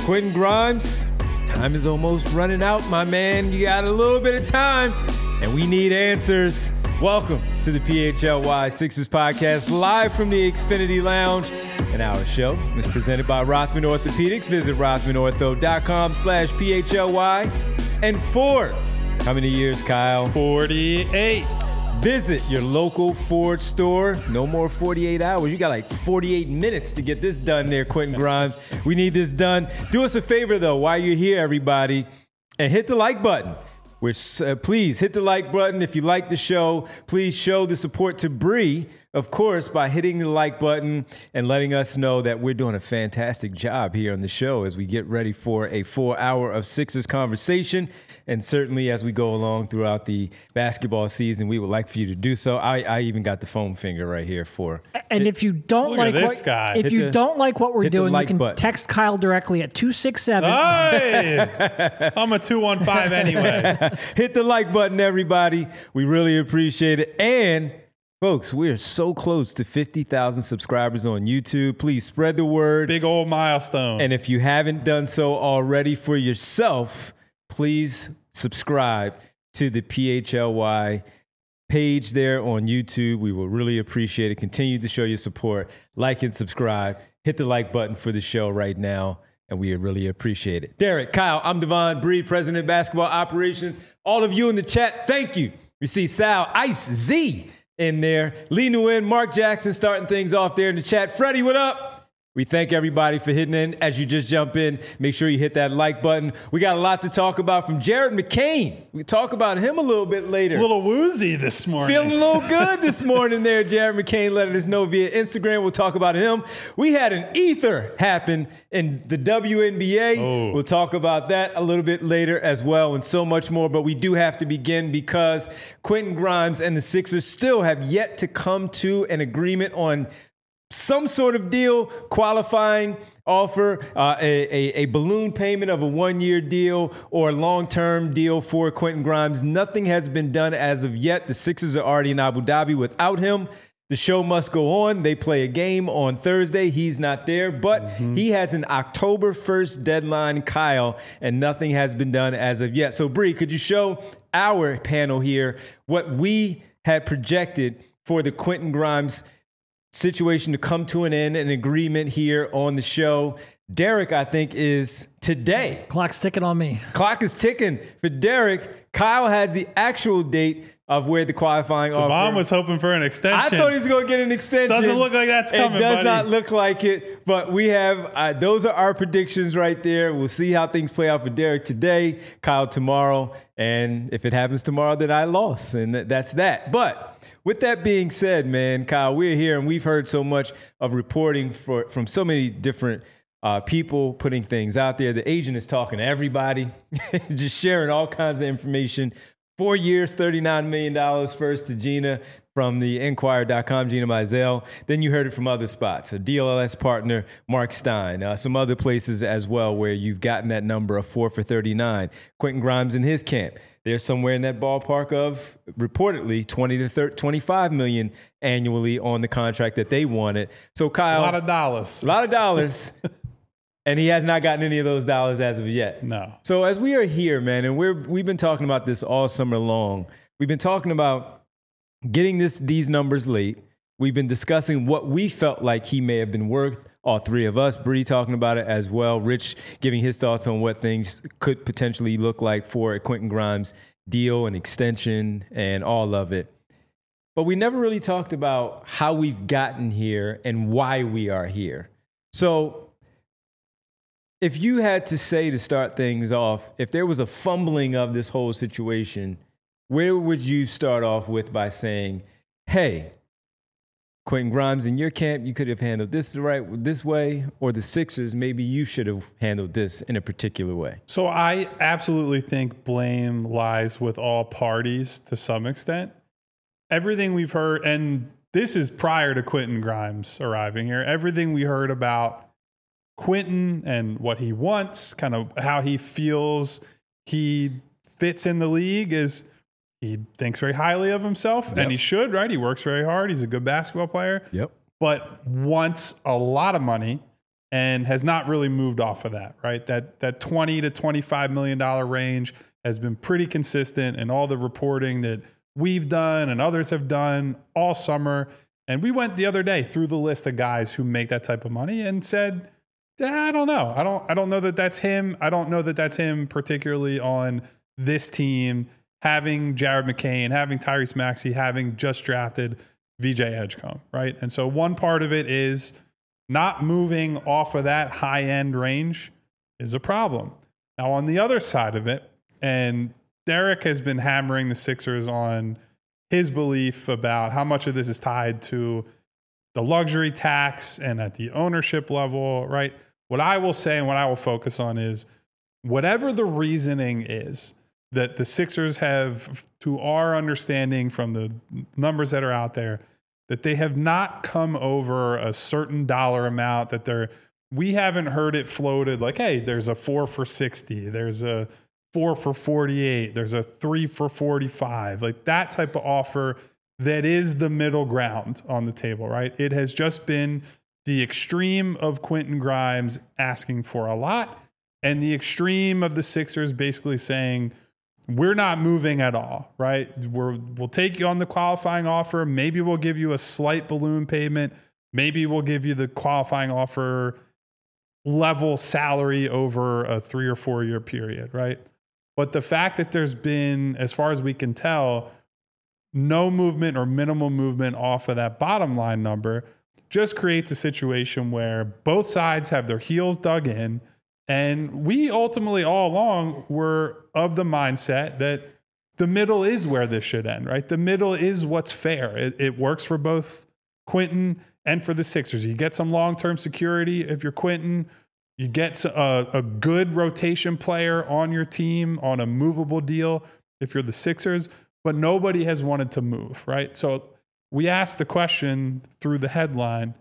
Quentin Grimes, time is almost running out, my man. You got a little bit of time, and we need answers. Welcome to the PHLY Sixers podcast, live from the Xfinity Lounge. And our show is presented by Rothman Orthopedics. Visit rothmanortho.com/PHLY. And Ford. How many years, Kyle? 48. Visit your local Ford store. No more 48 hours. You got like 48 minutes to get this done there, Quentin Grimes. We need this done. Do us a favor, though, while you're here, everybody, and hit the like button. Please hit the like button. If you like the show, please show the support to Bree, of course, by hitting the like button and letting us know that we're doing a fantastic job here on the show as we get ready for a full hour of Sixers conversation. And certainly as we go along throughout the basketball season, we would like for you to do so. I even got the foam finger right here for. And if you don't like what we're doing, you can text Kyle directly at 267. Hey, I'm a 215 anyway. Hit the like button, everybody. We really appreciate it. And folks, we are so close to 50,000 subscribers on YouTube. Please spread the word. Big old milestone. And if you haven't done so already for yourself, please subscribe to the PHLY page there on YouTube. We will really appreciate it. Continue to show your support. Like and subscribe. Hit the like button for the show right now, and we really appreciate it. Derek, Kyle, I'm Devon Bree, President of Basketball Operations. All of you in the chat, thank you. We see Sal, Ice, Z in there. Lee Nguyen, Mark Jackson starting things off there in the chat. Freddie, what up? We thank everybody for hitting in. As you just jump in, make sure you hit that like button. We got a lot to talk about from Jared McCain. We talk about him a little bit later. A little woozy this morning. Feeling a little good this morning there. Jared McCain letting us know via Instagram. We'll talk about him. We had an ether happen in the WNBA. Oh. We'll talk about that a little bit later as well, and so much more. But we do have to begin because Quentin Grimes and the Sixers still have yet to come to an agreement on some sort of deal, qualifying offer, a balloon payment of a one-year deal or a long-term deal for Quentin Grimes. Nothing has been done as of yet. The Sixers are already in Abu Dhabi without him. The show must go on. They play a game on Thursday. He's not there, but he has an October 1st deadline, Kyle, and nothing has been done as of yet. So, Bree, could you show our panel here what we had projected for the Quentin Grimes situation to come to an end, an agreement here on the show? Derek, I think, is today. Clock's ticking on me. Clock is ticking for Derek. Kyle has the actual date of where the qualifying offer. Devon was hoping for an extension. I thought he was going to get an extension. Doesn't look like that's coming, It does buddy. not look like it, but we have, those are our predictions right there. We'll see how things play out for Derek today, Kyle tomorrow, and if it happens tomorrow, then I lost, and that's that. But with that being said, man, Kyle, we're here, and we've heard so much of reporting from so many different people putting things out there. The agent is talking to everybody, just sharing all kinds of information. 4 years, $39 million first to Gina from the Enquirer.com, Gina Mizell. Then you heard it from other spots, a DLS partner, Mark Stein, some other places as well where you've gotten that number of 4 for 39. Quentin Grimes in his camp. They're somewhere in that ballpark of reportedly 20 to 25 million annually on the contract that they wanted. So Kyle, A lot of dollars. And he has not gotten any of those dollars as of yet. No. So as we are here, man, and we've been talking about this all summer long. We've been talking about getting these numbers late. We've been discussing what we felt like he may have been worth. All three of us, Bree talking about it as well. Rich giving his thoughts on what things could potentially look like for a Quentin Grimes deal and extension and all of it. But we never really talked about how we've gotten here and why we are here. So if you had to say, to start things off, if there was a fumbling of this whole situation, where would you start off with by saying, hey, Quentin Grimes, in your camp, you could have handled this this way, or the Sixers, maybe you should have handled this in a particular way? So I absolutely think blame lies with all parties to some extent. Everything we've heard, and this is prior to Quentin Grimes arriving here, everything we heard about Quentin and what he wants, kind of how he feels he fits in the league, is he thinks very highly of himself, and he should, right? He works very hard. He's a good basketball player, but wants a lot of money and has not really moved off of that, right? That $20 to $25 million range has been pretty consistent in all the reporting that we've done and others have done all summer. And we went the other day through the list of guys who make that type of money and said, I don't know. I don't know that that's him. I don't know that that's him particularly on this team, having Jared McCain, having Tyrese Maxey, having just drafted VJ Edgecombe, right? And so one part of it is not moving off of that high-end range is a problem. Now, on the other side of it, and Derek has been hammering the Sixers on his belief about how much of this is tied to the luxury tax and at the ownership level, right? What I will say and what I will focus on is whatever the reasoning is that the Sixers have, to our understanding from the numbers that are out there, that they have not come over a certain dollar amount that we haven't heard it floated like, hey, there's a 4 for 60, there's a 4 for 48, there's a 3 for 45, like that type of offer that is the middle ground on the table, right? It has just been the extreme of Quentin Grimes asking for a lot and the extreme of the Sixers basically saying, we're not moving at all, right? We'll take you on the qualifying offer. Maybe we'll give you a slight balloon payment. Maybe we'll give you the qualifying offer level salary over a 3 or 4 year period, right? But the fact that there's been, as far as we can tell, no movement or minimal movement off of that bottom line number just creates a situation where both sides have their heels dug in. And we ultimately all along were of the mindset that the middle is where this should end, right? The middle is what's fair. It works for both Quentin and for the Sixers. You get some long-term security if you're Quentin. You get a good rotation player on your team on a movable deal if you're the Sixers, but nobody has wanted to move, right? So we asked the question through the headline,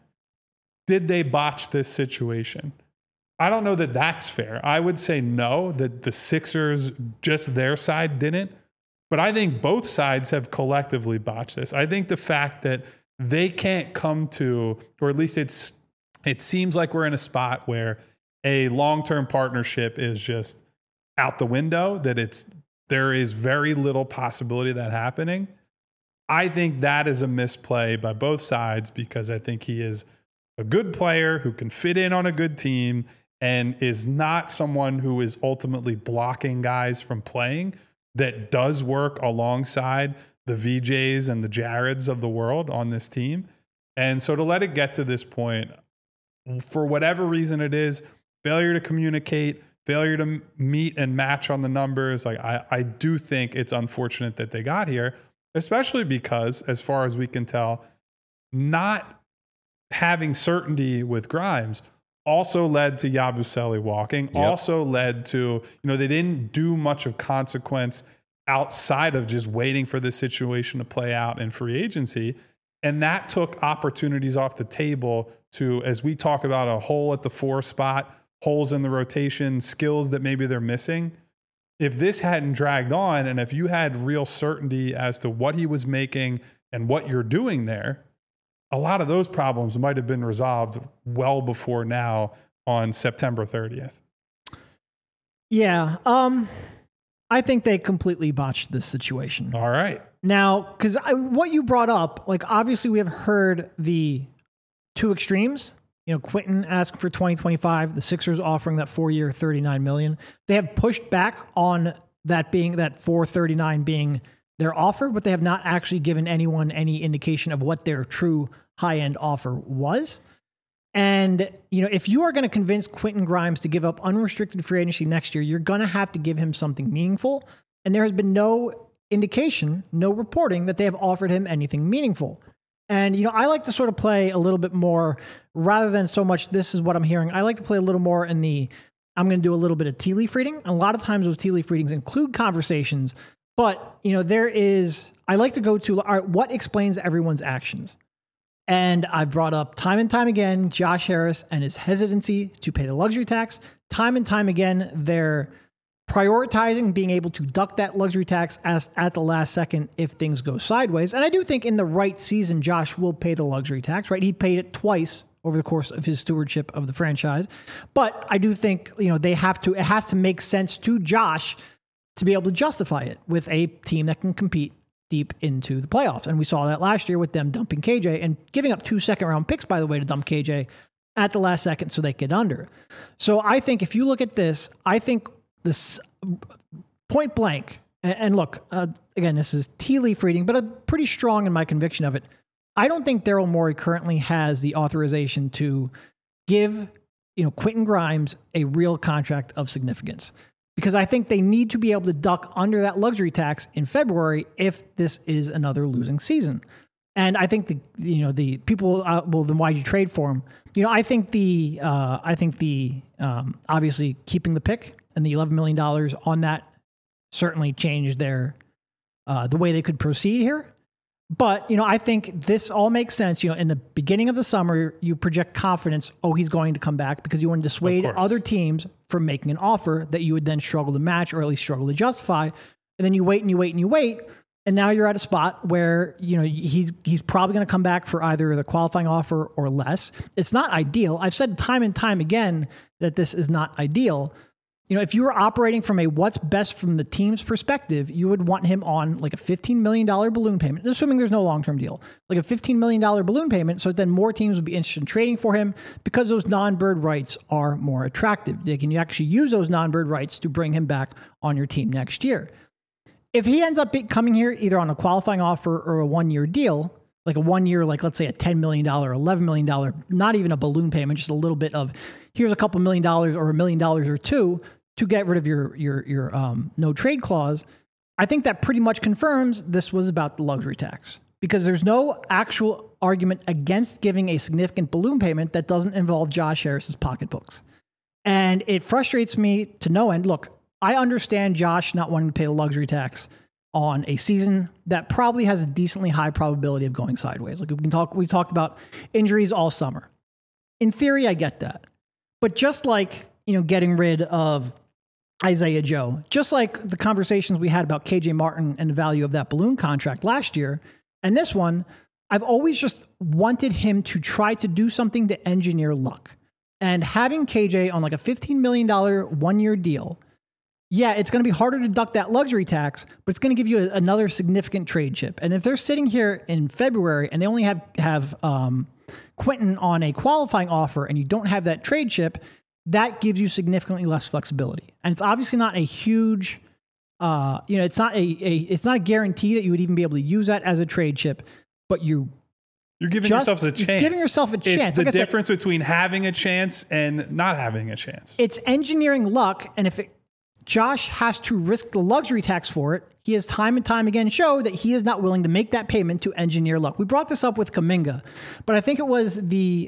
did they botch this situation? I don't know that that's fair. I would say no, that the Sixers, just their side, didn't. But I think both sides have collectively botched this. I think the fact that they can't come to, or at least it seems like we're in a spot where a long-term partnership is just out the window, that there is very little possibility of that happening. I think that is a misplay by both sides because I think he is a good player who can fit in on a good team and is not someone who is ultimately blocking guys from playing, that does work alongside the VJs and the Jareds of the world on this team. And so to let it get to this point, for whatever reason it is, failure to communicate, failure to meet and match on the numbers, like I do think it's unfortunate that they got here, especially because, as far as we can tell, not having certainty with Grimes also led to Yabusele walking, also led to, they didn't do much of consequence outside of just waiting for this situation to play out in free agency. And that took opportunities off the table to, as we talk about a hole at the 4 spot, holes in the rotation, skills that maybe they're missing. If this hadn't dragged on, and if you had real certainty as to what he was making and what you're doing there, a lot of those problems might have been resolved well before now on September 30th. Yeah. I think they completely botched this situation. All right. Now, because what you brought up, like obviously we have heard the two extremes. Quentin asking for 2025, the Sixers offering that 4-year, $39 million. They have pushed back on that being that $439 being their offer, but they have not actually given anyone any indication of what their true high-end offer was. And, if you are going to convince Quentin Grimes to give up unrestricted free agency next year, you're going to have to give him something meaningful. And there has been no indication, no reporting that they have offered him anything meaningful. And, I like to sort of play a little bit more rather than so much, this is what I'm hearing. I like to play a little more in I'm going to do a little bit of tea leaf reading. A lot of times those tea leaf readings include conversations, but, I like to go to, all right, what explains everyone's actions? And I've brought up time and time again, Josh Harris and his hesitancy to pay the luxury tax. Time and time again, they're prioritizing being able to duck that luxury tax at the last second if things go sideways. And I do think in the right season, Josh will pay the luxury tax, right? He paid it twice over the course of his stewardship of the franchise. But I do think, it has to make sense to Josh to be able to justify it with a team that can compete deep into the playoffs. And we saw that last year with them dumping KJ and giving up 2 second-round picks, by the way, to dump KJ at the last second so they get under. So I think if you look at this, I think this point blank, and look, again, this is tea leaf reading, but I'm pretty strong in my conviction of it. I don't think Daryl Morey currently has the authorization to give, Quentin Grimes a real contract of significance, because I think they need to be able to duck under that luxury tax in February if this is another losing season. And I think the people then why'd you trade for him? I think obviously keeping the pick and the $11 million on that certainly changed their the way they could proceed here. But, I think this all makes sense. In the beginning of the summer, you project confidence, he's going to come back, because you want to dissuade other teams from making an offer that you would then struggle to match, or at least struggle to justify. And then you wait and you wait and you wait. And now you're at a spot where, he's probably going to come back for either the qualifying offer or less. It's not ideal. I've said time and time again that this is not ideal. If you were operating from a what's best from the team's perspective, you would want him on like a $15 million balloon payment, assuming there's no long-term deal, like a $15 million balloon payment. So then more teams would be interested in trading for him because those non-bird rights are more attractive. They can actually use those non-bird rights to bring him back on your team next year. If he ends up coming here either on a qualifying offer or a 1-year deal, like a 1 year, like let's say a $10 million, $11 million, not even a balloon payment, just a little bit of here's a couple $1 million or $1 million or two to get rid of your no trade clause, I think that pretty much confirms this was about the luxury tax, because there's no actual argument against giving a significant balloon payment that doesn't involve Josh Harris's pocketbooks. And it frustrates me to no end. Look, I understand Josh not wanting to pay the luxury tax on a season that probably has a decently high probability of going sideways. Like we talked about injuries all summer. In theory, I get that. But just like, getting rid of Isaiah Joe, just like the conversations we had about KJ Martin and the value of that balloon contract last year, and this one, I've always just wanted him to try to do something to engineer luck. And having KJ on like a $15 million 1-year deal, yeah, it's going to be harder to duck that luxury tax, but it's going to give you another significant trade chip. And if they're sitting here in February and they only have Quentin on a qualifying offer and you don't have that trade chip, that gives you significantly less flexibility. And it's obviously not a huge, it's not a guarantee that you would even be able to use that as a trade chip, but you're giving yourself a chance. You're giving yourself a chance. It's the difference between having a chance and not having a chance. It's engineering luck, and if Josh has to risk the luxury tax for it, he has time and time again showed that he is not willing to make that payment to engineer luck. We brought this up with Kuminga, but I think it was the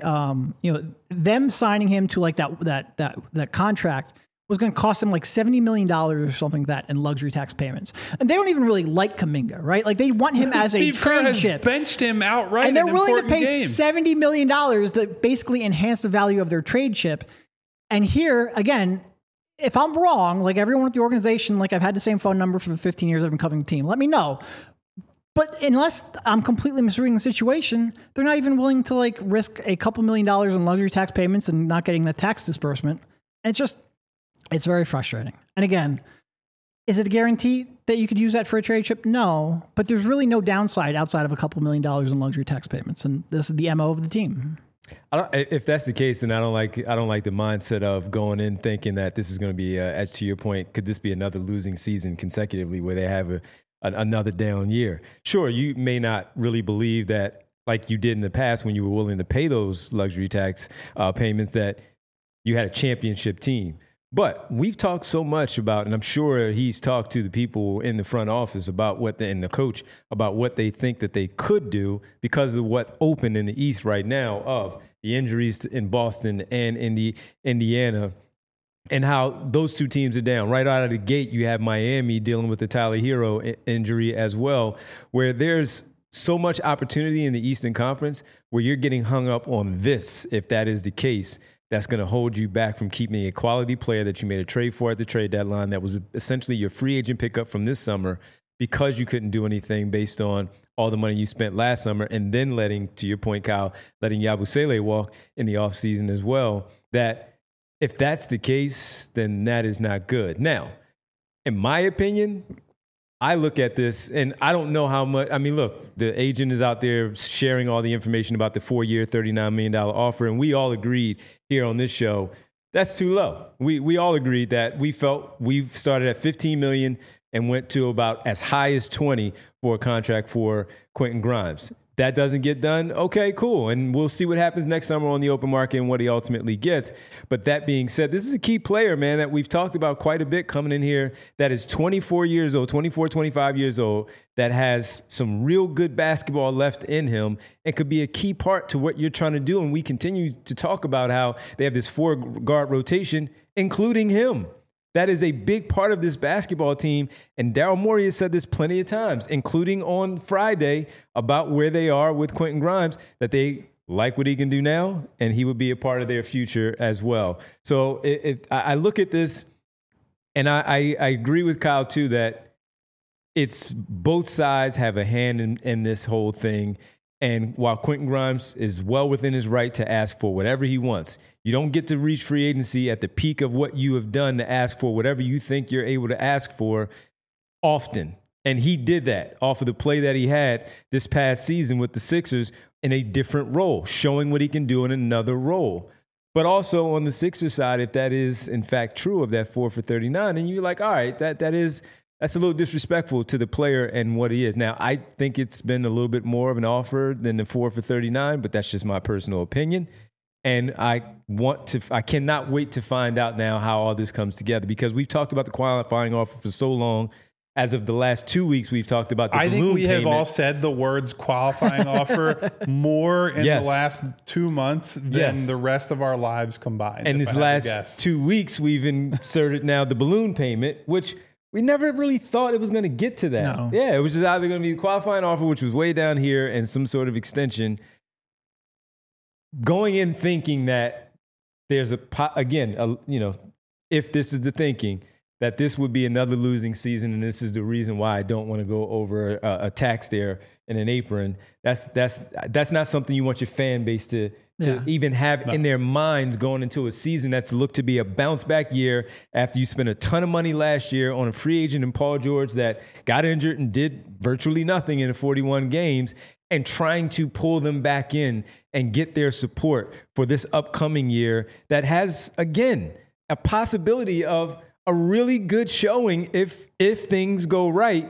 them signing him to like that contract was going to cost him like $70 million or something like that in luxury tax payments. And they don't even really like Kuminga, right? Like they want him as a trade chip. Benched him outright, and they're willing to pay games. $70 million to basically enhance the value of their trade chip. And here again, if I'm wrong, like everyone at the organization, like I've had the same phone number for the 15 years I've been covering the team, let me know. But unless I'm completely misreading the situation, they're not even willing to like risk a couple $1 million in luxury tax payments and not getting the tax disbursement. And it's very frustrating. And again, is it a guarantee that you could use that for a trade chip? No, but there's really no downside outside of a couple $1 million in luxury tax payments. And this is the MO of the team. If that's the case, then I don't like the mindset of going in thinking that this is going to be, to your point, could this be another losing season consecutively where they have another down year? Sure, you may not really believe that like you did in the past when you were willing to pay those luxury tax payments that you had a championship team. But we've talked so much about, and I'm sure he's talked to the people in the front office about and the coach about what they think that they could do because of what's open in the East right now of the injuries in Boston and in the Indiana and how those two teams are down. Right out of the gate, you have Miami dealing with the Tyler Hero injury as well, where there's so much opportunity in the Eastern Conference where you're getting hung up on this, if that is the case. That's going to hold you back from keeping a quality player that you made a trade for at the trade deadline that was essentially your free agent pickup from this summer because you couldn't do anything based on all the money you spent last summer, and then letting, to your point, Kyle, letting Yabusele walk in the offseason as well, that if that's the case, then that is not good. Now, in my opinion, I look at this and I don't know how much. I mean, look, the agent is out there sharing all the information about the 4-year, $39 million offer. And we all agreed here on this show, that's too low. We all agreed that we felt we've started at $15 million and went to about as high as 20 for a contract for Quentin Grimes. That doesn't get done, okay, cool. And we'll see what happens next summer on the open market and what he ultimately gets. But that being said, this is a key player, man, that we've talked about quite a bit coming in here, that is 24 years old, 24, 25 years old, that has some real good basketball left in him and could be a key part to what you're trying to do. And we continue to talk about how they have this 4-guard rotation, including him. That is a big part of this basketball team. And Daryl Morey has said this plenty of times, including on Friday, about where they are with Quentin Grimes, that they like what he can do now, and he would be a part of their future as well. So I look at this, and I agree with Kyle, too, that it's both sides have a hand in this whole thing. And while Quentin Grimes is well within his right to ask for whatever he wants, you don't get to reach free agency at the peak of what you have done to ask for whatever you think you're able to ask for often. And he did that off of the play that he had this past season with the Sixers in a different role, showing what he can do in another role. But also on the Sixers side, if that is in fact true of that 4 for 39, then you're like, all right, that's a little disrespectful to the player and what he is. Now, I think it's been a little bit more of an offer than the 4 for 39, but that's just my personal opinion. And I cannot wait to find out now how all this comes together, because we've talked about the qualifying offer for so long. As of the last 2 weeks, we've talked about the balloon payment. I think we have all said the words qualifying offer more in the last 2 months than the rest of our lives combined. And this last 2 weeks, we've inserted now the balloon payment, which we never really thought it was going to get to that. No. Yeah, it was just either going to be the qualifying offer, which was way down here, and some sort of extension. Going in thinking that there's if this is the thinking, that this would be another losing season, and this is the reason why I don't want to go over a tax there in an apron. That's not something you want your fan base to even have in their minds going into a season that's looked to be a bounce back year after you spent a ton of money last year on a free agent in Paul George that got injured and did virtually nothing in the 41 games, and trying to pull them back in and get their support for this upcoming year that has, again, a possibility of a really good showing if things go right.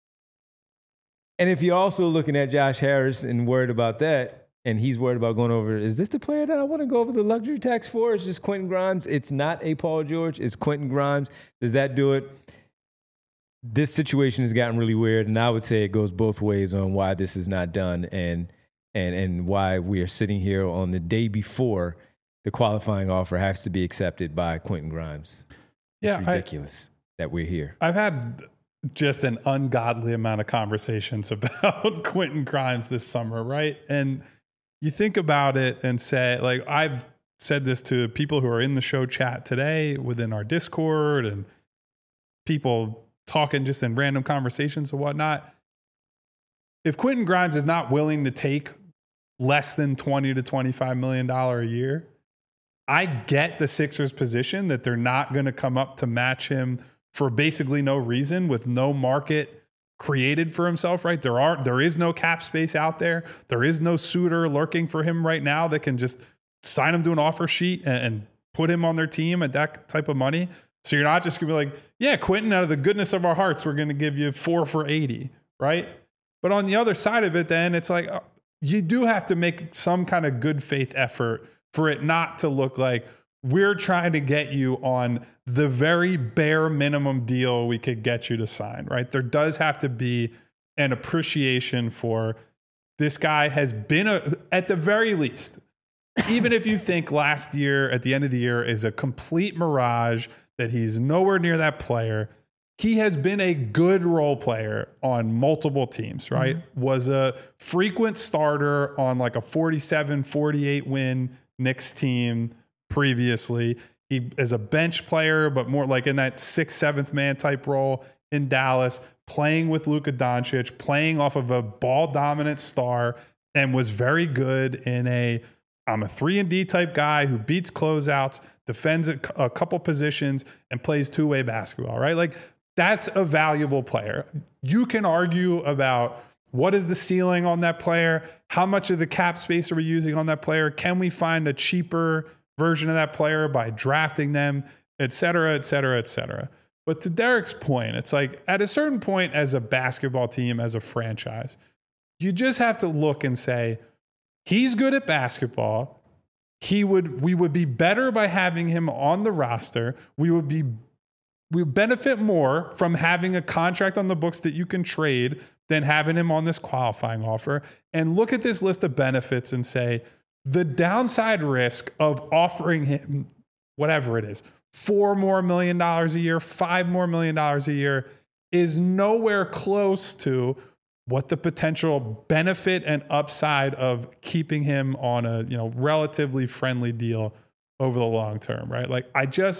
And if you're also looking at Josh Harris and worried about that, and he's worried about going over, is this the player that I want to go over the luxury tax for? It's just Quentin Grimes. It's not a Paul George. It's Quentin Grimes. Does that do it? This situation has gotten really weird, and I would say it goes both ways on why this is not done and why we are sitting here on the day before the qualifying offer has to be accepted by Quentin Grimes. It's ridiculous that we're here. I've had just an ungodly amount of conversations about Quentin Grimes this summer, right? And you think about it and say, like, I've said this to people who are in the show chat today within our Discord and people talking just in random conversations and whatnot. If Quentin Grimes is not willing to take less than $20 to $25 million a year, I get the Sixers' position that they're not going to come up to match him for basically no reason, with no market created for himself, right? There is no cap space out there. There is no suitor lurking for him right now that can just sign him to an offer sheet and put him on their team at that type of money. So you're not just going to be like, yeah, Quentin, out of the goodness of our hearts, we're going to give you 4 for 80, right? But on the other side of it, then it's like you do have to make some kind of good faith effort for it not to look like we're trying to get you on the very bare minimum deal we could get you to sign, right? There does have to be an appreciation for this guy has been, at the very least, even if you think last year at the end of the year is a complete mirage, that he's nowhere near that player, he has been a good role player on multiple teams, right? Mm-hmm. Was a frequent starter on like a 47, 48 win Knicks team previously. He is a bench player, but more like in that 6th, 7th man type role in Dallas. playing with Luka Doncic, playing off of a ball-dominant star, and was very good in I'm a 3-and-D type guy who beats closeouts, defends a couple positions, and plays two-way basketball, right? Like, that's a valuable player. You can argue about what is the ceiling on that player? How much of the cap space are we using on that player? Can we find a cheaper version of that player by drafting them, et cetera, et cetera, et cetera. But to Derek's point, it's like at a certain point as a basketball team, as a franchise, you just have to look and say, he's good at basketball. We would be better by having him on the roster. We would benefit more from having a contract on the books that you can trade than having him on this qualifying offer. And look at this list of benefits and say, the downside risk of offering him whatever it is, $4 million more a year, $5 million more a year, is nowhere close to what the potential benefit and upside of keeping him on a relatively friendly deal over the long term, right? Like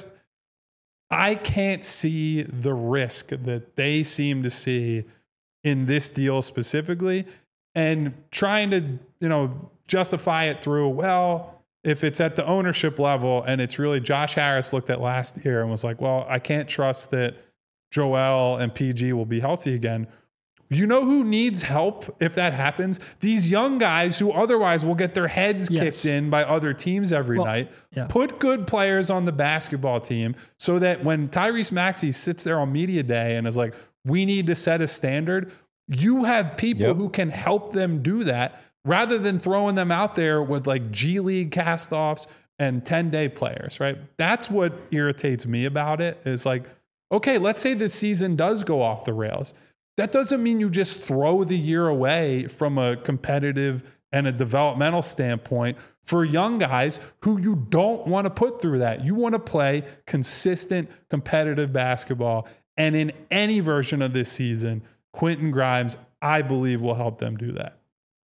I can't see the risk that they seem to see in this deal specifically, and trying to justify it through, well, if it's at the ownership level and it's really Josh Harris looked at last year and was like, well, I can't trust that Joel and PG will be healthy again. You know who needs help if that happens? These young guys who otherwise will get their heads kicked in by other teams every night. Yeah. Put good players on the basketball team so that when Tyrese Maxey sits there on media day and is like, we need to set a standard, you have people who can help them do that rather than throwing them out there with like G League castoffs and 10-day players, right? That's what irritates me about it is like, okay, let's say this season does go off the rails. That doesn't mean you just throw the year away from a competitive and a developmental standpoint for young guys who you don't want to put through that. You want to play consistent, competitive basketball. And in any version of this season, Quentin Grimes, I believe, will help them do that.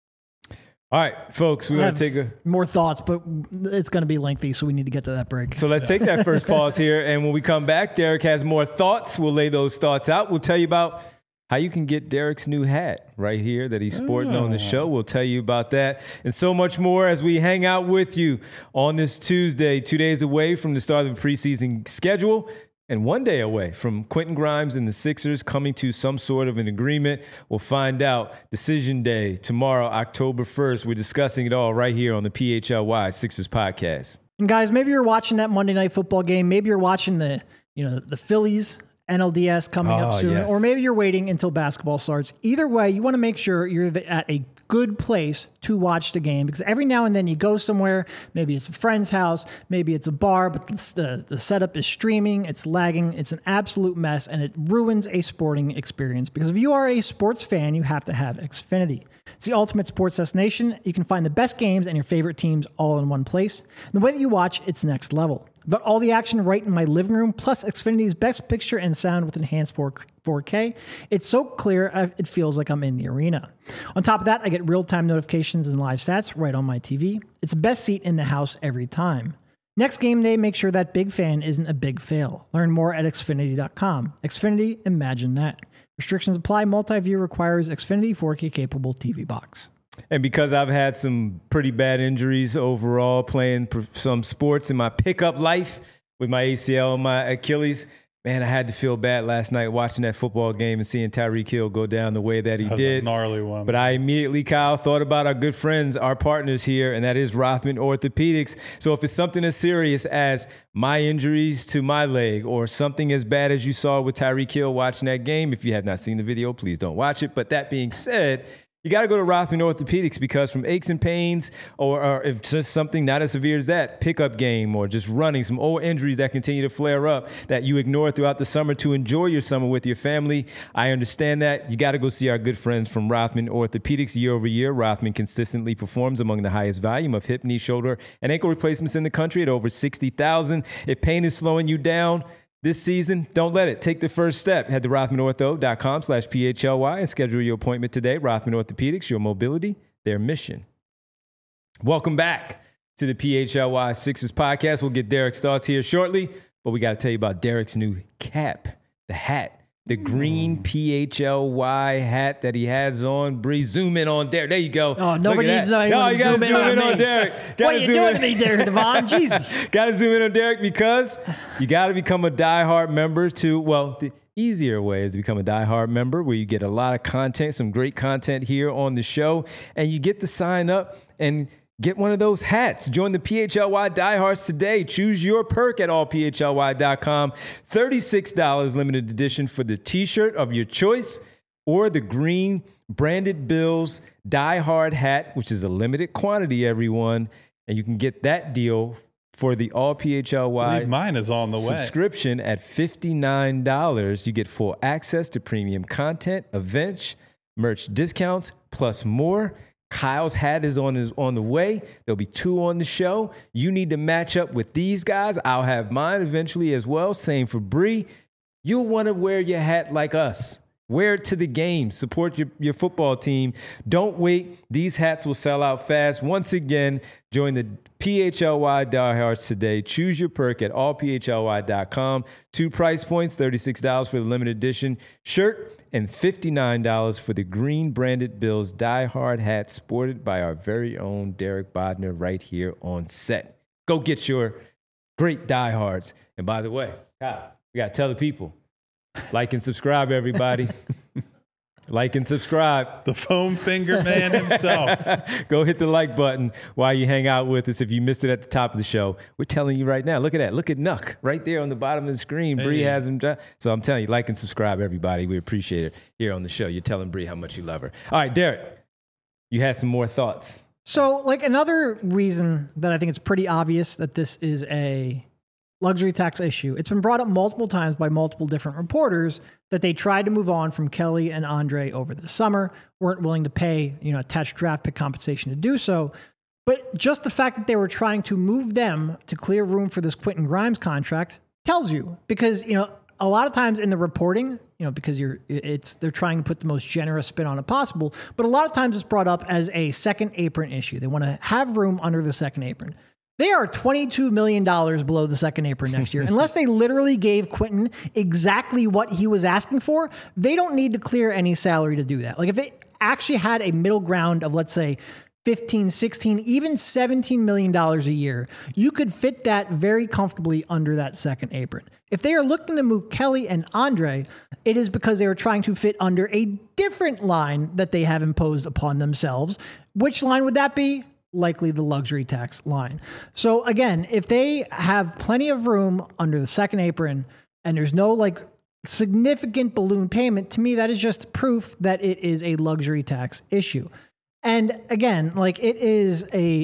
All right, folks, we're going to take more thoughts, but it's going to be lengthy, so we need to get to that break. So let's take that first pause here. And when we come back, Derek has more thoughts. We'll lay those thoughts out. We'll tell you about how you can get Derek's new hat right here that he's sporting on the show. We'll tell you about that and so much more as we hang out with you on this Tuesday, 2 days away from the start of the preseason schedule and 1 day away from Quentin Grimes and the Sixers coming to some sort of an agreement. We'll find out. Decision day tomorrow, October 1st. We're discussing it all right here on the PHLY Sixers podcast. And guys, maybe you're watching that Monday Night Football game. Maybe you're watching the Phillies NLDS coming up soon, or maybe you're waiting until basketball starts. Either way, you want to make sure you're at a good place to watch the game, because every now and then you go somewhere, maybe it's a friend's house, maybe it's a bar, but the setup is streaming, it's lagging, it's an absolute mess, and it ruins a sporting experience. Because if you are a sports fan, you have to have Xfinity. It's the ultimate sports destination. You can find the best games and your favorite teams all in one place. And the way that you watch, it's next level. Got all the action right in my living room, plus Xfinity's best picture and sound with enhanced 4K. It's so clear, it feels like I'm in the arena. On top of that, I get real-time notifications and live stats right on my TV. It's the best seat in the house every time. Next game day, make sure that big fan isn't a big fail. Learn more at Xfinity.com. Xfinity, imagine that. Restrictions apply. Multi-view requires Xfinity 4K capable TV box. And because I've had some pretty bad injuries overall playing some sports in my pickup life with my ACL and my Achilles, man, I had to feel bad last night watching that football game and seeing Tyreek Hill go down the way that he did. A gnarly one. But I immediately, Kyle, thought about our good friends, our partners here, and that is Rothman Orthopedics. So if it's something as serious as my injuries to my leg or something as bad as you saw with Tyreek Hill watching that game, if you have not seen the video, please don't watch it. But that being said, you got to go to Rothman Orthopedics, because from aches and pains or if just something not as severe as that, pickup game or just running, some old injuries that continue to flare up that you ignore throughout the summer to enjoy your summer with your family, I understand that. You got to go see our good friends from Rothman Orthopedics. Year over year, Rothman consistently performs among the highest volume of hip, knee, shoulder, and ankle replacements in the country at over 60,000. If pain is slowing you down this season, don't let it. Take the first step. Head to rothmanortho.com/PHLY and schedule your appointment today. Rothman Orthopedics, your mobility, their mission. Welcome back to the PHLY Sixers podcast. We'll get Derek's thoughts here shortly, but we got to tell you about Derek's new cap, the hat The green PHLY hat that he has on. Bree, zoom in on Derek. There you go. Oh, nobody needs anyone No, to you got to zoom in on Derek. What are you doing to me, Derek Devon? Jesus. Got to zoom in on Derek because you got to become a diehard member to, well, the easier way is to become a diehard member where you get a lot of content, some great content here on the show, and you get to sign up and get one of those hats. Join the PHLY diehards today. Choose your perk at allphly.com. $36 limited edition for the t-shirt of your choice or the green Branded Bills diehard hat, which is a limited quantity, everyone. And you can get that deal for the all PHLY mine is on the way. Subscription at $59. You get full access to premium content, events, merch discounts, plus more. Kyle's hat is on the way. There'll be 2 on the show. You need to match up with these guys. I'll have mine eventually as well. Same for Bree. You'll want to wear your hat like us. Wear it to the game. Support your football team. Don't wait. These hats will sell out fast. Once again, join the PHLY diehards today. Choose your perk at allphly.com. 2 price points, $36 for the limited edition shirt and $59 for the green Branded Bills diehard hat sported by our very own Derek Bodner right here on set. Go get your great diehards. And by the way, Kyle, we got to tell the people, like and subscribe, everybody. Like and subscribe. The foam finger man himself. Go hit the like button while you hang out with us. If you missed it at the top of the show, we're telling you right now. Look at that. Look at Nuck right there on the bottom of the screen. Hey. Bree has him. So I'm telling you, like and subscribe, everybody. We appreciate it here on the show. You're telling Bree how much you love her. All right, Derek, you had some more thoughts. So, like, another reason that I think it's pretty obvious that this is a luxury tax issue. It's been brought up multiple times by multiple different reporters that they tried to move on from Kelly and Andre over the summer, weren't willing to pay, attached draft pick compensation to do so. But just the fact that they were trying to move them to clear room for this Quentin Grimes contract tells you, because, a lot of times in the reporting, because they're trying to put the most generous spin on it possible, but a lot of times it's brought up as a second apron issue. They want to have room under the second apron. They are $22 million below the second apron next year. Unless they literally gave Quentin exactly what he was asking for, they don't need to clear any salary to do that. Like, if it actually had a middle ground of, let's say, 15, 16, even $17 million a year, you could fit that very comfortably under that second apron. If they are looking to move Kelly and Andre, it is because they are trying to fit under a different line that they have imposed upon themselves. Which line would that be? Likely the luxury tax line. So again, if they have plenty of room under the second apron and there's no significant balloon payment, to me, that is just proof that it is a luxury tax issue. And again, what was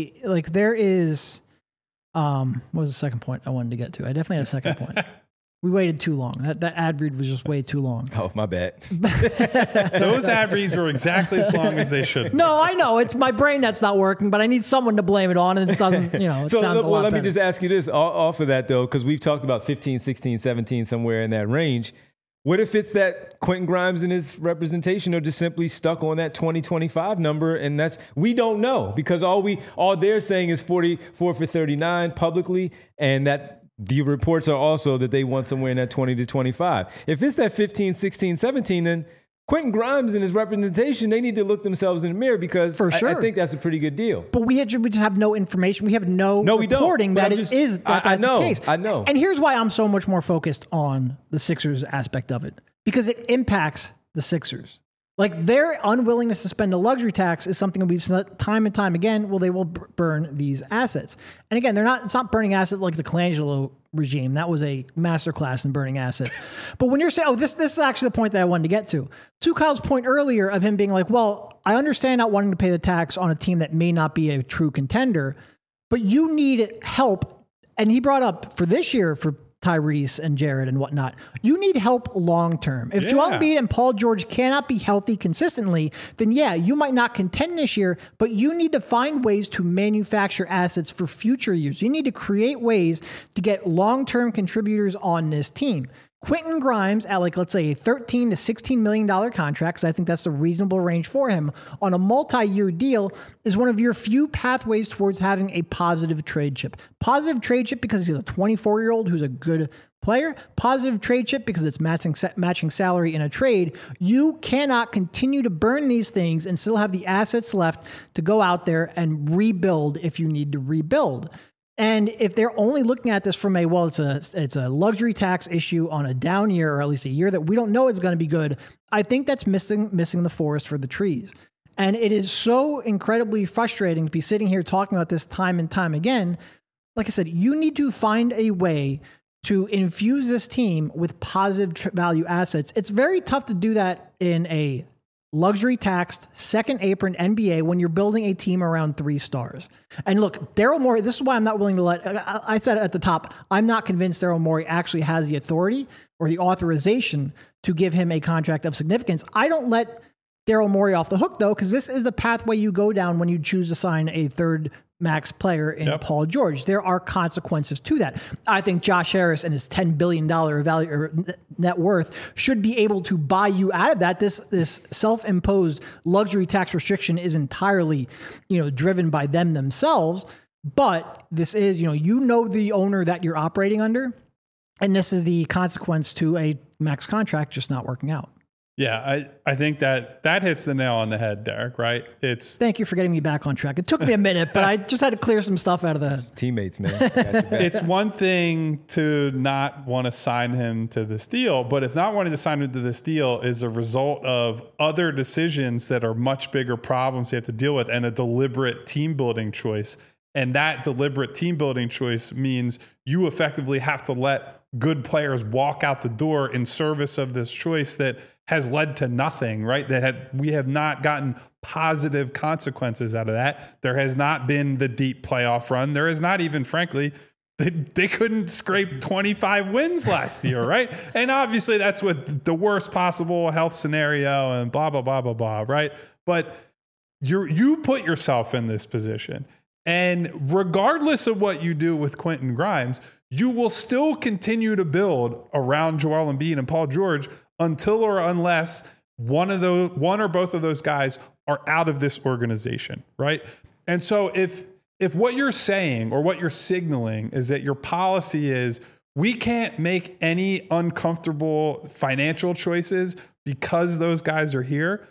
the second point I wanted to get to? I definitely had a second point. We waited too long. That ad read was just way too long. Oh, my bad. Those ad reads were exactly as long as they should be. No, I know. It's my brain that's not working, but I need someone to blame it on, and it doesn't, it sounds a lot let better. me just ask you this off of that, though, because we've talked about 15, 16, 17, somewhere in that range. What if it's that Quentin Grimes and his representation are just simply stuck on that 2025 number, and we don't know, because all they're saying is 44 for 39 publicly, and that the reports are also that they want somewhere in that 20 to 25. If it's that 15, 16, 17, then Quentin Grimes and his representation, they need to look themselves in the mirror, because For sure. I think that's a pretty good deal. But we just have no information. We have no reporting that that's the case. I know. And here's why I'm so much more focused on the Sixers aspect of it, because it impacts the Sixers. Their unwillingness to spend a luxury tax is something that we've seen time and time again. Well, they will burn these assets. And again, it's not burning assets like the Colangelo regime. That was a masterclass in burning assets. But when you're saying, this is actually the point that I wanted to get to. To Kyle's point earlier of him being like, well, I understand not wanting to pay the tax on a team that may not be a true contender, but you need help. And he brought up for this year, for Tyrese and Jared and whatnot, you need help long-term. If Joel Embiid and Paul George cannot be healthy consistently, then you might not contend this year, but you need to find ways to manufacture assets for future years. You need to create ways to get long-term contributors on this team. Quentin Grimes at let's say a $13 to $16 million contract, because I think that's a reasonable range for him on a multi-year deal, is one of your few pathways towards having a positive trade chip. Positive trade chip because he's a 24-year-old who's a good player, positive trade chip because it's matching salary in a trade. You cannot continue to burn these things and still have the assets left to go out there and rebuild if you need to rebuild. And if they're only looking at this from it's a luxury tax issue on a down year, or at least a year that we don't know is going to be good, I think that's missing the forest for the trees. And it is so incredibly frustrating to be sitting here talking about this time and time again. Like I said, you need to find a way to infuse this team with positive value assets. It's very tough to do that in a luxury taxed second apron NBA when you're building a team around 3 stars. And look, Daryl Morey, this is why I'm not willing to I said at the top, I'm not convinced Daryl Morey actually has the authority or the authorization to give him a contract of significance. I don't let Daryl Morey off the hook, though, because this is the pathway you go down when you choose to sign a third max player in Paul George. There are consequences to that. I think Josh Harris and his $10 billion value or net worth should be able to buy you out of that. This self-imposed luxury tax restriction is entirely, driven by them themselves. But this is, the owner that you're operating under, and this is the consequence to a max contract just not working out. Yeah, I think that hits the nail on the head, Derek, right? Thank you for getting me back on track. It took me a minute, but I just had to clear some stuff out of the teammates, man. It's one thing to not want to sign him to this deal, but if not wanting to sign him to this deal is a result of other decisions that are much bigger problems you have to deal with and a deliberate team building choice. And that deliberate team building choice means you effectively have to let good players walk out the door in service of this choice that has led to nothing, right? We have not gotten positive consequences out of that. There has not been the deep playoff run. There is not even, frankly, they couldn't scrape 25 wins last year, right? And obviously that's with the worst possible health scenario and blah, blah, blah, blah, blah, right? But you put yourself in this position. And regardless of what you do with Quentin Grimes, you will still continue to build around Joel Embiid and Paul George until or unless one or both of those guys are out of this organization, right? And so if what you're saying or what you're signaling is that your policy is we can't make any uncomfortable financial choices because those guys are here,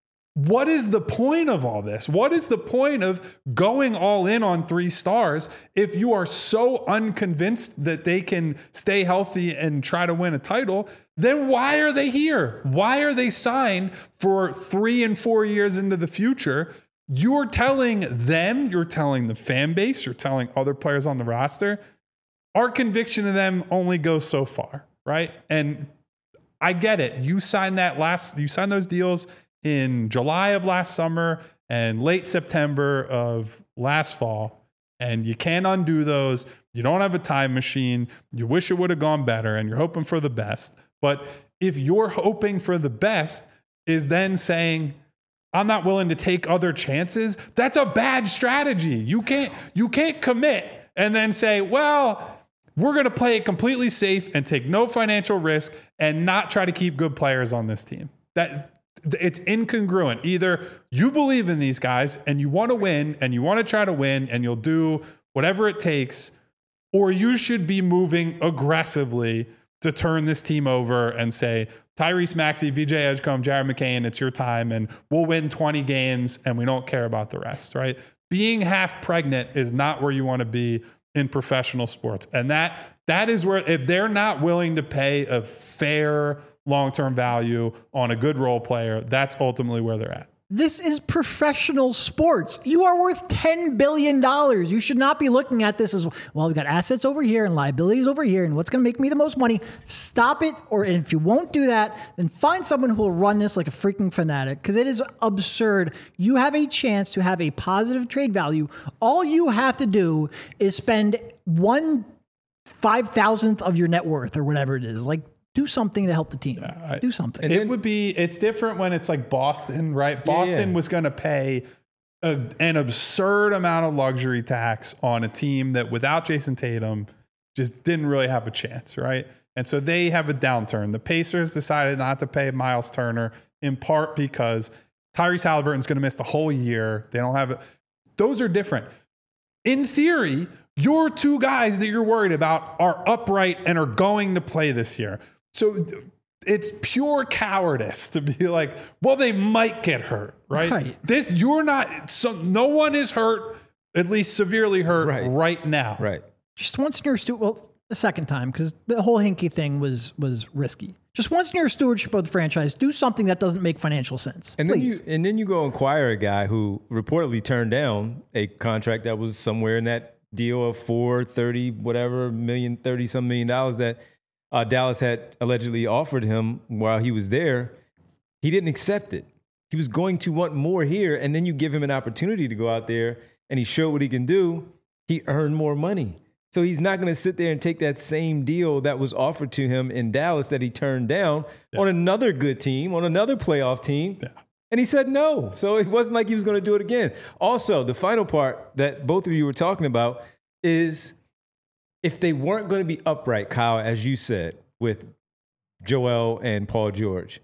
what is the point of all this? What is the point of going all in on 3 stars if you are so unconvinced that they can stay healthy and try to win a title? Then why are they here? Why are they signed for 3 and 4 years into the future? You're telling them, you're telling the fan base, you're telling other players on the roster, our conviction of them only goes so far, right? And I get it. You signed those deals in July of last summer and late September of last fall, and you can't undo those. You don't have a time machine. You wish it would have gone better, and you're hoping for the best. But if you're hoping for the best is then saying, I'm not willing to take other chances, that's a bad strategy. You can't commit and then say, well, we're going to play it completely safe and take no financial risk and not try to keep good players on this team. It's incongruent. Either you believe in these guys and you want to win and you want to try to win and you'll do whatever it takes, or you should be moving aggressively to turn this team over and say, Tyrese Maxey, VJ Edgecombe, Jared McCain, it's your time and we'll win 20 games and we don't care about the rest, right? Being half pregnant is not where you want to be in professional sports. And that is where, if they're not willing to pay a fair long-term value on a good role player, that's ultimately where they're at. This is professional sports. You are worth $10 billion. You should not be looking at this as, well, we've got assets over here and liabilities over here, and what's going to make me the most money? Stop it. Or if you won't do that, then find someone who will run this like a freaking fanatic, because it is absurd. You have a chance to have a positive trade value. All you have to do is spend 1/5000th of your net worth or whatever it is. Like, do something to help the team. Do something. It's different when it's like Boston, right? Boston was going to pay an absurd amount of luxury tax on a team that without Jason Tatum just didn't really have a chance, right? And so they have a downturn. The Pacers decided not to pay Miles Turner in part because Tyrese Halliburton's going to miss the whole year. They don't have it. Those are different. in theory, your two guys that you're worried about are upright and are going to play this year. So it's pure cowardice to be like, well, they might get hurt, right? No one is hurt, at least severely hurt right now. Right. Just once in your the second time, because the whole Hinkie thing was risky. Just once in your stewardship of the franchise, do something that doesn't make financial sense. And please. then you go acquire a guy who reportedly turned down a contract that was somewhere in that deal of $30 some million that Dallas had allegedly offered him while he was there. He didn't accept it. He was going to want more here, and then you give him an opportunity to go out there, and he showed what he can do. He earned more money. So he's not going to sit there and take that same deal that was offered to him in Dallas that he turned down on another good team, on another playoff team. Yeah. And he said no. So it wasn't like he was going to do it again. Also, the final part that both of you were talking about is if they weren't going to be upright, Kyle, as you said, with Joel and Paul George,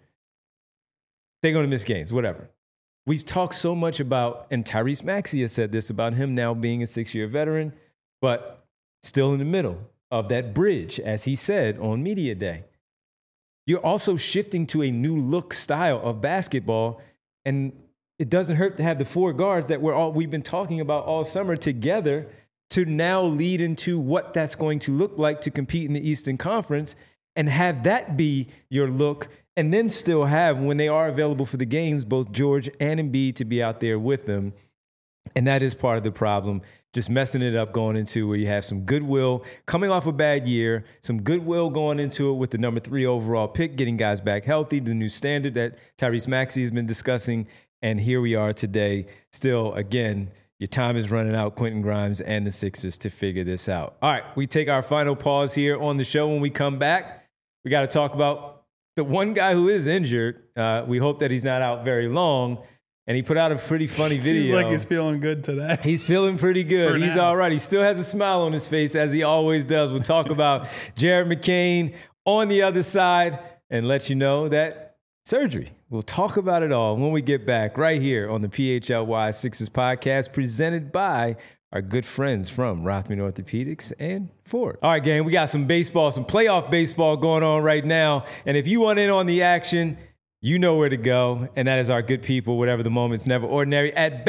they're going to miss games, whatever. We've talked so much about, and Tyrese Maxey has said this about him now being a 6-year veteran, but still in the middle of that bridge, as he said on Media Day. You're also shifting to a new look style of basketball, and it doesn't hurt to have the four guards that we've been talking about all summer together to now lead into what that's going to look like to compete in the Eastern Conference and have that be your look, and then still have, when they are available for the games, both George and Embiid to be out there with them. And that is part of the problem. Just messing it up going into where you have some goodwill coming off a bad year, some goodwill going into it with the number 3 overall pick, getting guys back healthy, the new standard that Tyrese Maxey has been discussing. And here we are today. Still, again, your time is running out, Quentin Grimes and the Sixers, to figure this out. All right, we take our final pause here on the show. When we come back, we got to talk about the one guy who is injured. We hope that he's not out very long. And he put out a pretty funny video. Seems like he's feeling good today. He's feeling pretty good. He's all right. He still has a smile on his face, as he always does. We'll talk about Jared McCain on the other side and let you know that surgery. We'll talk about it all when we get back right here on the PHLY Sixers podcast, presented by our good friends from Rothman Orthopedics and Ford. All right, gang, we got some baseball, some playoff baseball going on right now. And if you want in on the action, you know where to go, and that is our good people, whatever the moment's never ordinary, at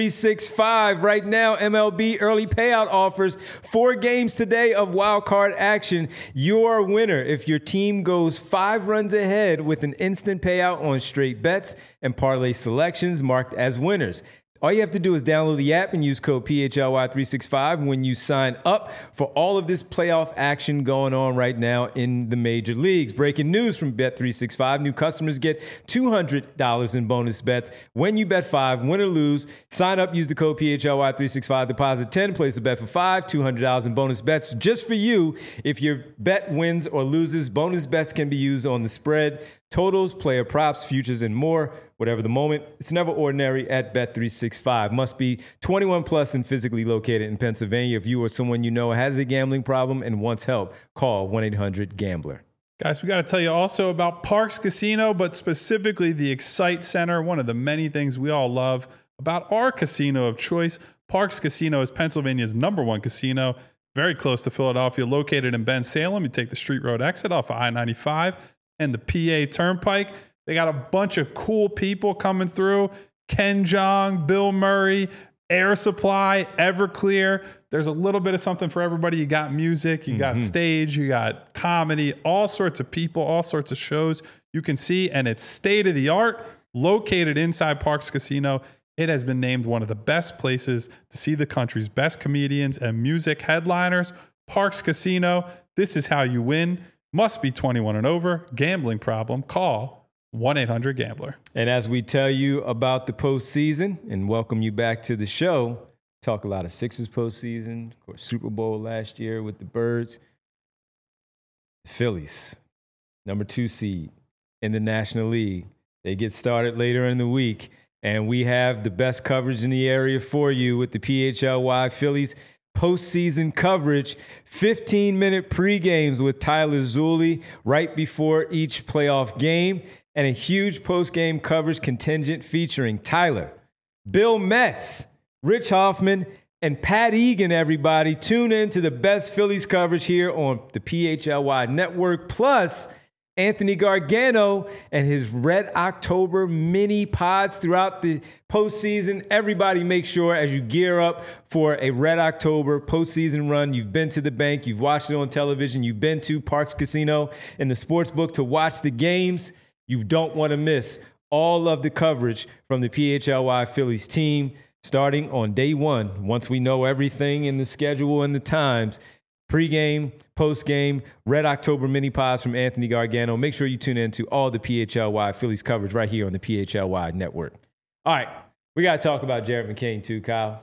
Bet365. Right now, MLB early payout offers 4 games today of wild card action. You're a winner if your team goes 5 runs ahead with an instant payout on straight bets and parlay selections marked as winners. All you have to do is download the app and use code PHLY365 when you sign up for all of this playoff action going on right now in the major leagues. Breaking news from Bet365. New customers get $200 in bonus bets when you bet 5, win or lose. Sign up, use the code PHLY365, deposit 10, place a bet for 5, $200 in bonus bets just for you. If your bet wins or loses, bonus bets can be used on the spread, totals, player props, futures, and more. Whatever the moment, it's never ordinary at Bet365. Must be 21 plus and physically located in Pennsylvania. If you or someone you know has a gambling problem and wants help, call 1-800-GAMBLER. Guys, we got to tell you also about Parx Casino, but specifically the Excite Center, one of the many things we all love about our casino of choice. Parx Casino is Pennsylvania's #1 casino, very close to Philadelphia, located in Bensalem. You take the Street Road exit off of I-95 and the PA Turnpike. They got a bunch of cool people coming through. Ken Jeong, Bill Murray, Air Supply, Everclear. There's a little bit of something for everybody. You got music, you got stage, you got comedy, all sorts of people, all sorts of shows you can see. And it's state of the art, located inside Parx Casino. It has been named one of the best places to see the country's best comedians and music headliners. Parx Casino, this is how you win. Must be 21 and over. Gambling problem, call 1-800-GAMBLER. And as we tell you about the postseason and welcome you back to the show, talk a lot of Sixers postseason, of course, Super Bowl last year with the Birds. The Phillies, #2 seed in the National League. They get started later in the week, and we have the best coverage in the area for you with the PHLY Phillies postseason coverage, 15-minute pregames with Tyler Zulli right before each playoff game, and a huge post-game coverage contingent featuring Tyler, Bill Metz, Rich Hoffman, and Pat Egan, everybody. Tune in to the best Phillies coverage here on the PHLY Network. Plus, Anthony Gargano and his Red October mini pods throughout the postseason. Everybody make sure as you gear up for a Red October postseason run, you've been to the bank, you've watched it on television, you've been to Parx Casino and the sportsbook to watch the games. You don't want to miss all of the coverage from the PHLY Phillies team starting on day one. Once we know everything in the schedule and the times, pre-game, post-game, Red October mini pods from Anthony Gargano. Make sure you tune in to all the PHLY Phillies coverage right here on the PHLY Network. All right, we got to talk about Jared McCain too, Kyle,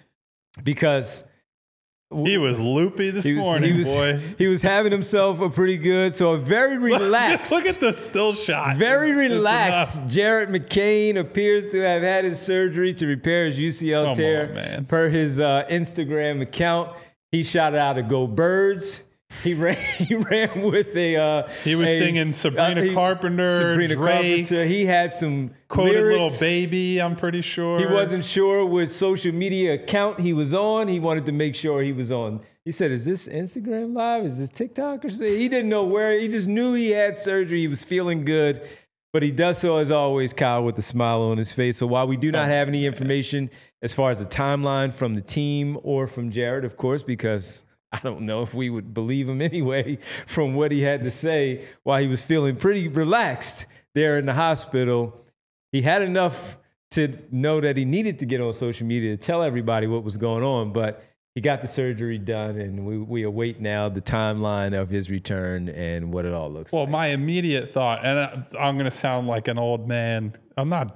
because he was loopy this morning, boy. He was having himself a pretty good, so a very relaxed. Just look at the still shot. Very relaxed. Jared McCain appears to have had his surgery to repair his UCL tear, per his Instagram account. He shot out a Go Birds. He ran with a. He was singing Sabrina Carpenter. Drake. Carpenter. He had some quoted lyrics. Little Baby. I'm pretty sure he wasn't sure which social media account he was on. He wanted to make sure he was on. He said, "Is this Instagram Live? Is this TikTok?" Or something? He didn't know where. He just knew he had surgery. He was feeling good, but he does so as always, Kyle, with a smile on his face. So while we do not have any information as far as the timeline from the team or from Jared, of course, because I don't know if we would believe him anyway from what he had to say while he was feeling pretty relaxed there in the hospital. He had enough to know that he needed to get on social media to tell everybody what was going on, but he got the surgery done, and we await now the timeline of his return and what it all looks like. Well, my immediate thought, and I'm going to sound like an old man. I'm not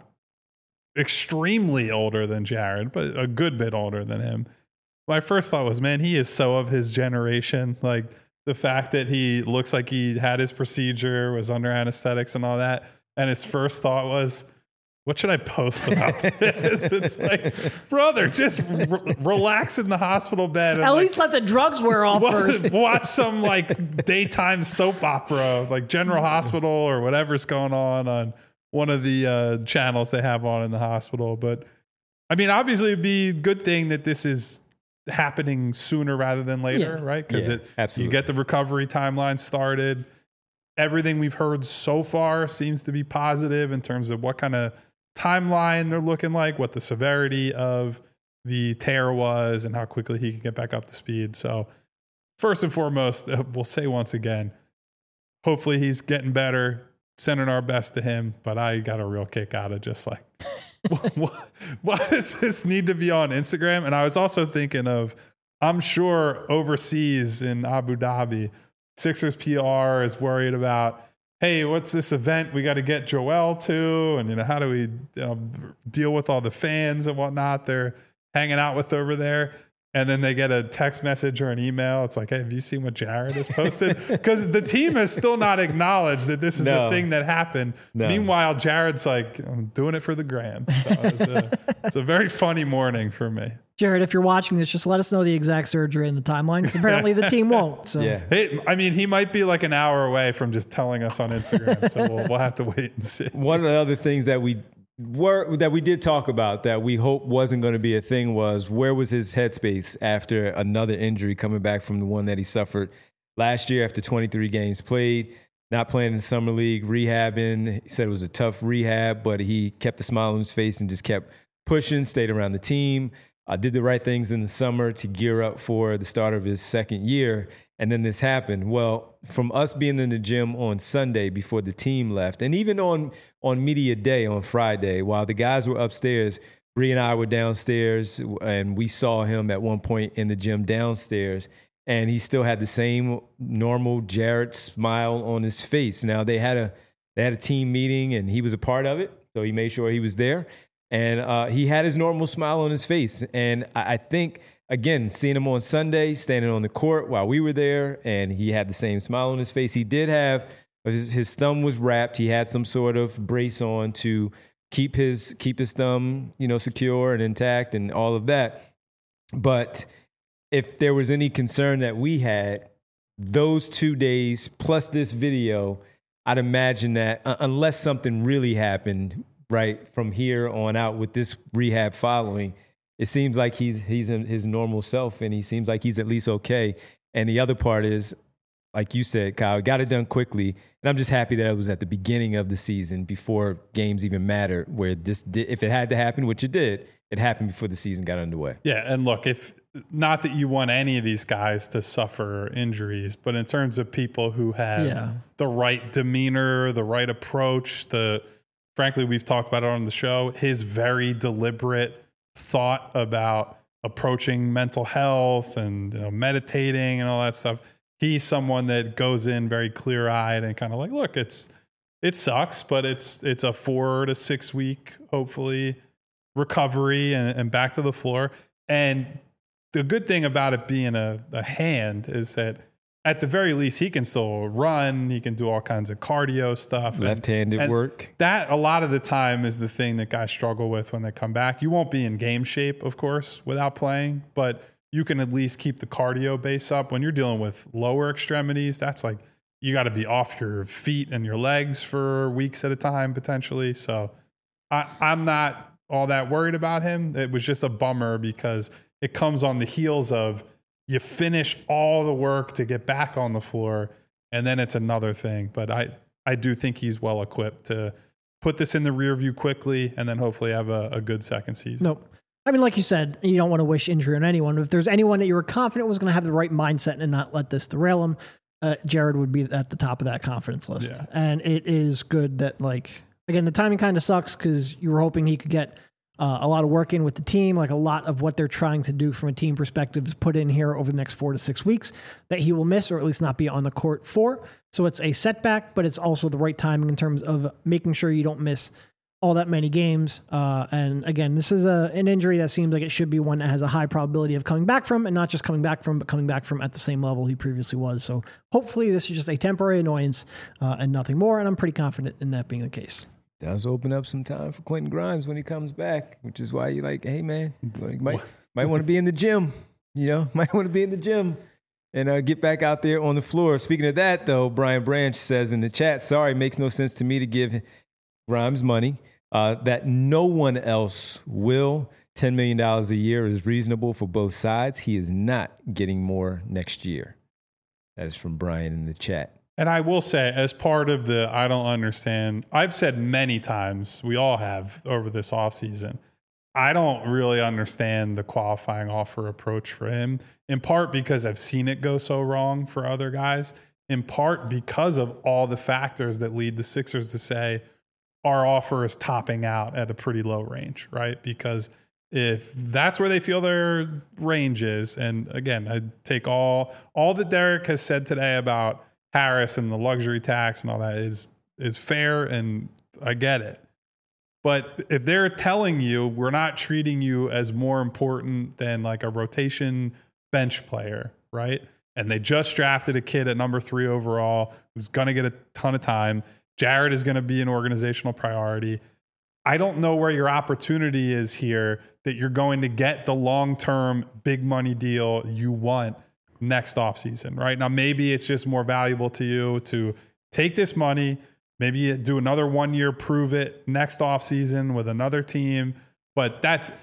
extremely older than Jared, but a good bit older than him. My first thought was, man, he is so of his generation. Like the fact that he looks like he had his procedure, was under anesthetics and all that. And his first thought was, what should I post about this? It's like, brother, just relax in the hospital bed. And at least let the drugs wear off first. Watch some like daytime soap opera, like General Hospital or whatever's going on one of the channels they have on in the hospital. But I mean, obviously it'd be a good thing that this is happening sooner rather than later, right? Because you get the recovery timeline started. Everything we've heard so far seems to be positive in terms of what kind of timeline they're looking like, what the severity of the tear was, and how quickly he can get back up to speed. So first and foremost, we'll say once again, hopefully he's getting better, sending our best to him. But I got a real kick out of just like, why does this need to be on Instagram? And I was also thinking of, I'm sure overseas in Abu Dhabi, Sixers PR is worried about, hey, what's this event we got to get Joel to? And, how do we deal with all the fans and whatnot they're hanging out with over there? And then they get a text message or an email. It's like, hey, have you seen what Jared has posted? Because the team has still not acknowledged that this is a thing that happened. No. Meanwhile, Jared's like, I'm doing it for the gram. So it's a very funny morning for me. Jared, if you're watching this, just let us know the exact surgery and the timeline, because apparently the team won't. So. Yeah. Hey, I mean, he might be like an hour away from just telling us on Instagram. So we'll have to wait and see. One of the other things that we did talk about that we hope wasn't going to be a thing was, where was his headspace after another injury coming back from the one that he suffered last year after 23 games played, not playing in the summer league, rehabbing. He said it was a tough rehab, but he kept a smile on his face and just kept pushing, stayed around the team, did the right things in the summer to gear up for the start of his second year. And then this happened. Well, from us being in the gym on Sunday before the team left, and even on media day on Friday, while the guys were upstairs, Bree and I were downstairs, and we saw him at one point in the gym downstairs, and he still had the same normal Jared smile on his face. Now they had a team meeting, and he was a part of it, so he made sure he was there, and he had his normal smile on his face. And I think, again, seeing him on Sunday, standing on the court while we were there, and he had the same smile on his face. He did have his thumb was wrapped. He had some sort of brace on to keep his thumb, secure and intact and all of that. But if there was any concern that we had, those 2 days plus this video, I'd imagine that unless something really happened right from here on out with this rehab following, it seems like he's in his normal self, and he seems like he's at least okay. And the other part is, like you said, Kyle, got it done quickly. And I'm just happy that it was at the beginning of the season before games even mattered, where if it had to happen, which it did, it happened before the season got underway. Yeah, and look, if not that you want any of these guys to suffer injuries, but in terms of people who have the right demeanor, the right approach, frankly, we've talked about it on the show, his very deliberate thought about approaching mental health and meditating and all that stuff. He's someone that goes in very clear-eyed and kind of like, look, it sucks, but it's a 4 to 6 week, hopefully, recovery and back to the floor. And the good thing about it being a hand is that at the very least, he can still run. He can do all kinds of cardio stuff. Left-handed work. That, a lot of the time, is the thing that guys struggle with when they come back. You won't be in game shape, of course, without playing, but you can at least keep the cardio base up. When you're dealing with lower extremities, that's like you got to be off your feet and your legs for weeks at a time, potentially. So I'm not all that worried about him. It was just a bummer because it comes on the heels of you finish all the work to get back on the floor, and then it's another thing. But I do think he's well equipped to put this in the rear view quickly and then hopefully have a good second season. Nope. I mean, like you said, you don't want to wish injury on anyone. But if there's anyone that you were confident was going to have the right mindset and not let this derail him, Jared would be at the top of that confidence list. Yeah. And it is good that, like, again, the timing kind of sucks because you were hoping he could get a lot of work in with the team, like a lot of what they're trying to do from a team perspective is put in here over the next 4 to 6 weeks that he will miss or at least not be on the court for. So it's a setback, but it's also the right timing in terms of making sure you don't miss all that many games. And again, this is an injury that seems like it should be one that has a high probability of coming back from, and not just coming back from, but coming back from at the same level he previously was. So hopefully this is just a temporary annoyance and nothing more. And I'm pretty confident in that being the case. Does open up some time for Quentin Grimes when he comes back, which is why you're like, hey man, you might want to be in the gym, might want to be in the gym and get back out there on the floor. Speaking of that though, Brian Branch says in the chat, sorry, it makes no sense to me to give Grimes money that no one else will. $10 million a year is reasonable for both sides. He is not getting more next year. That is from Brian in the chat. And I will say, as part of the I don't understand, I've said many times, we all have over this offseason, I don't really understand the qualifying offer approach for him, in part because I've seen it go so wrong for other guys, in part because of all the factors that lead the Sixers to say our offer is topping out at a pretty low range, right? Because if that's where they feel their range is, and again, I take all that Derek has said today about Harris and the luxury tax and all that is fair, and I get it. But if they're telling you we're not treating you as more important than like a rotation bench player, right? And they just drafted a kid at number 3 overall who's going to get a ton of time. Jared is going to be an organizational priority. I don't know where your opportunity is here that you're going to get the long-term big money deal you want next offseason, right? Now, maybe it's just more valuable to you to take this money, maybe do another 1 year, prove it next offseason with another team. But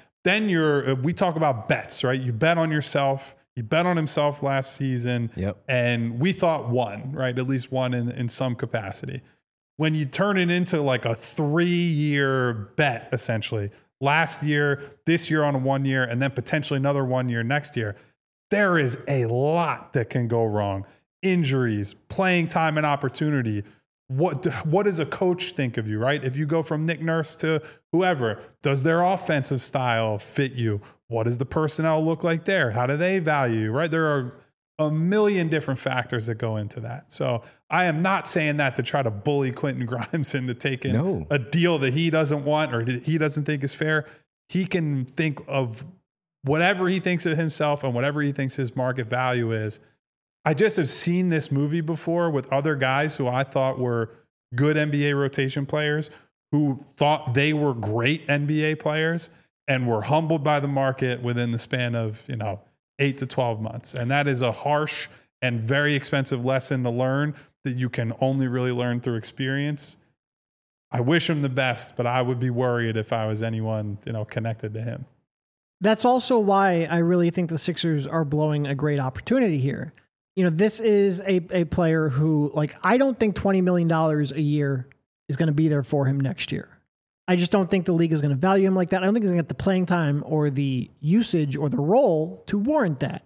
we talk about bets, right? You bet on yourself. He bet on himself last season. Yep. And we thought one, right? At least one in some capacity. When you turn it into like a 3-year bet, essentially, last year, this year on a 1 year, and then potentially another 1 year next year, there is a lot that can go wrong. Injuries, playing time and opportunity. What does a coach think of you, right? If you go from Nick Nurse to whoever, does their offensive style fit you? What does the personnel look like there? How do they value you, right? There are a million different factors that go into that. So I am not saying that to try to bully Quentin Grimes into taking a deal that he doesn't want or he doesn't think is fair. He can think of whatever he thinks of himself and whatever he thinks his market value is. I just have seen this movie before with other guys who I thought were good NBA rotation players who thought they were great NBA players and were humbled by the market within the span of, 8 to 12 months. And that is a harsh and very expensive lesson to learn that you can only really learn through experience. I wish him the best, but I would be worried if I was anyone, connected to him. That's also why I really think the Sixers are blowing a great opportunity here. You know, this is a player who, like, I don't think $20 million a year is going to be there for him next year. I just don't think the league is going to value him like that. I don't think he's going to get the playing time or the usage or the role to warrant that.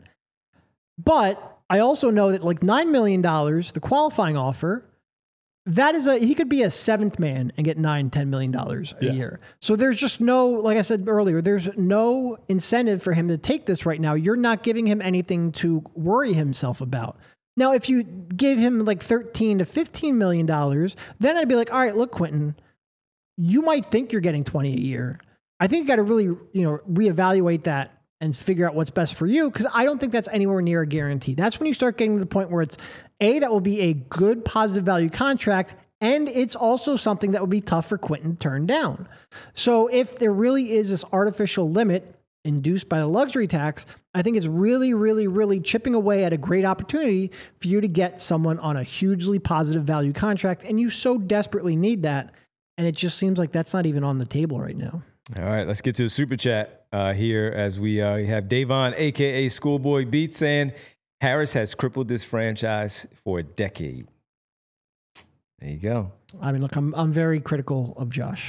But I also know that like $9 million, the qualifying offer, that is he could be a seventh man and get $9-10 million a year. So there's just no, like I said earlier, there's no incentive for him to take this right now. You're not giving him anything to worry himself about. Now, if you gave him like $13 to $15 million, then I'd be like, all right, look, Quentin, you might think you're getting 20 a year. I think you got to really, reevaluate that and figure out what's best for you, because I don't think that's anywhere near a guarantee. That's when you start getting to the point where it's that will be a good positive value contract, and it's also something that would be tough for Quentin to turn down. So if there really is this artificial limit induced by the luxury tax, I think it's really, really, really chipping away at a great opportunity for you to get someone on a hugely positive value contract, and you so desperately need that, and it just seems like that's not even on the table right now. All right, let's get to a super chat here as we have Davon, a.k.a. Schoolboy Beats, saying Harris has crippled this franchise for a decade. There you go. I mean, look, I'm very critical of Josh.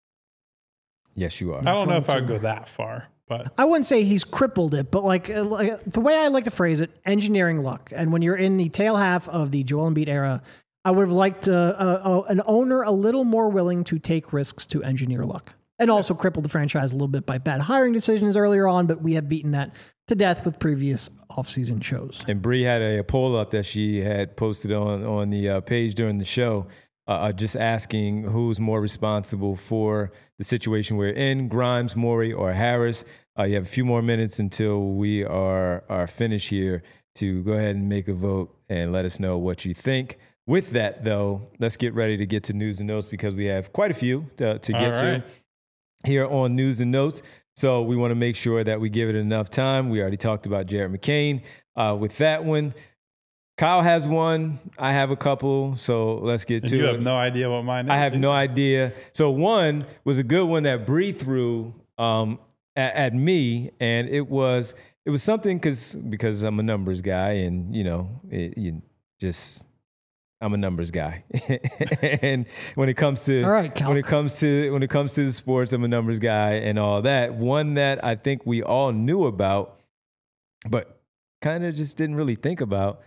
Yes, you are. I don't know if I'd go that far, but I wouldn't say he's crippled it, but like the way I like to phrase it, engineering luck. And when you're in the tail half of the Joel Embiid era, I would have liked an owner a little more willing to take risks to engineer luck. And also crippled the franchise a little bit by bad hiring decisions earlier on, but we have beaten that to death with previous offseason shows. And Bree had a poll up that she had posted on the page during the show, just asking who's more responsible for the situation we're in, Grimes, Morey, or Harris. You have a few more minutes until we are finished here to go ahead and make a vote and let us know what you think. With that, though, let's get ready to get to news and notes, because we have quite a few to get to here on News and Notes. So we want to make sure that we give it enough time. We already talked about Jared McCain with that one. Kyle has one. I have a couple. So let's get to it. You have no idea what mine is? I have no idea. So one was a good one that Bree threw at me, and it was something because I'm a numbers guy, and I'm a numbers guy. And when it comes to when it comes to the sports, I'm a numbers guy and all that. One that I think we all knew about, but kind of just didn't really think about.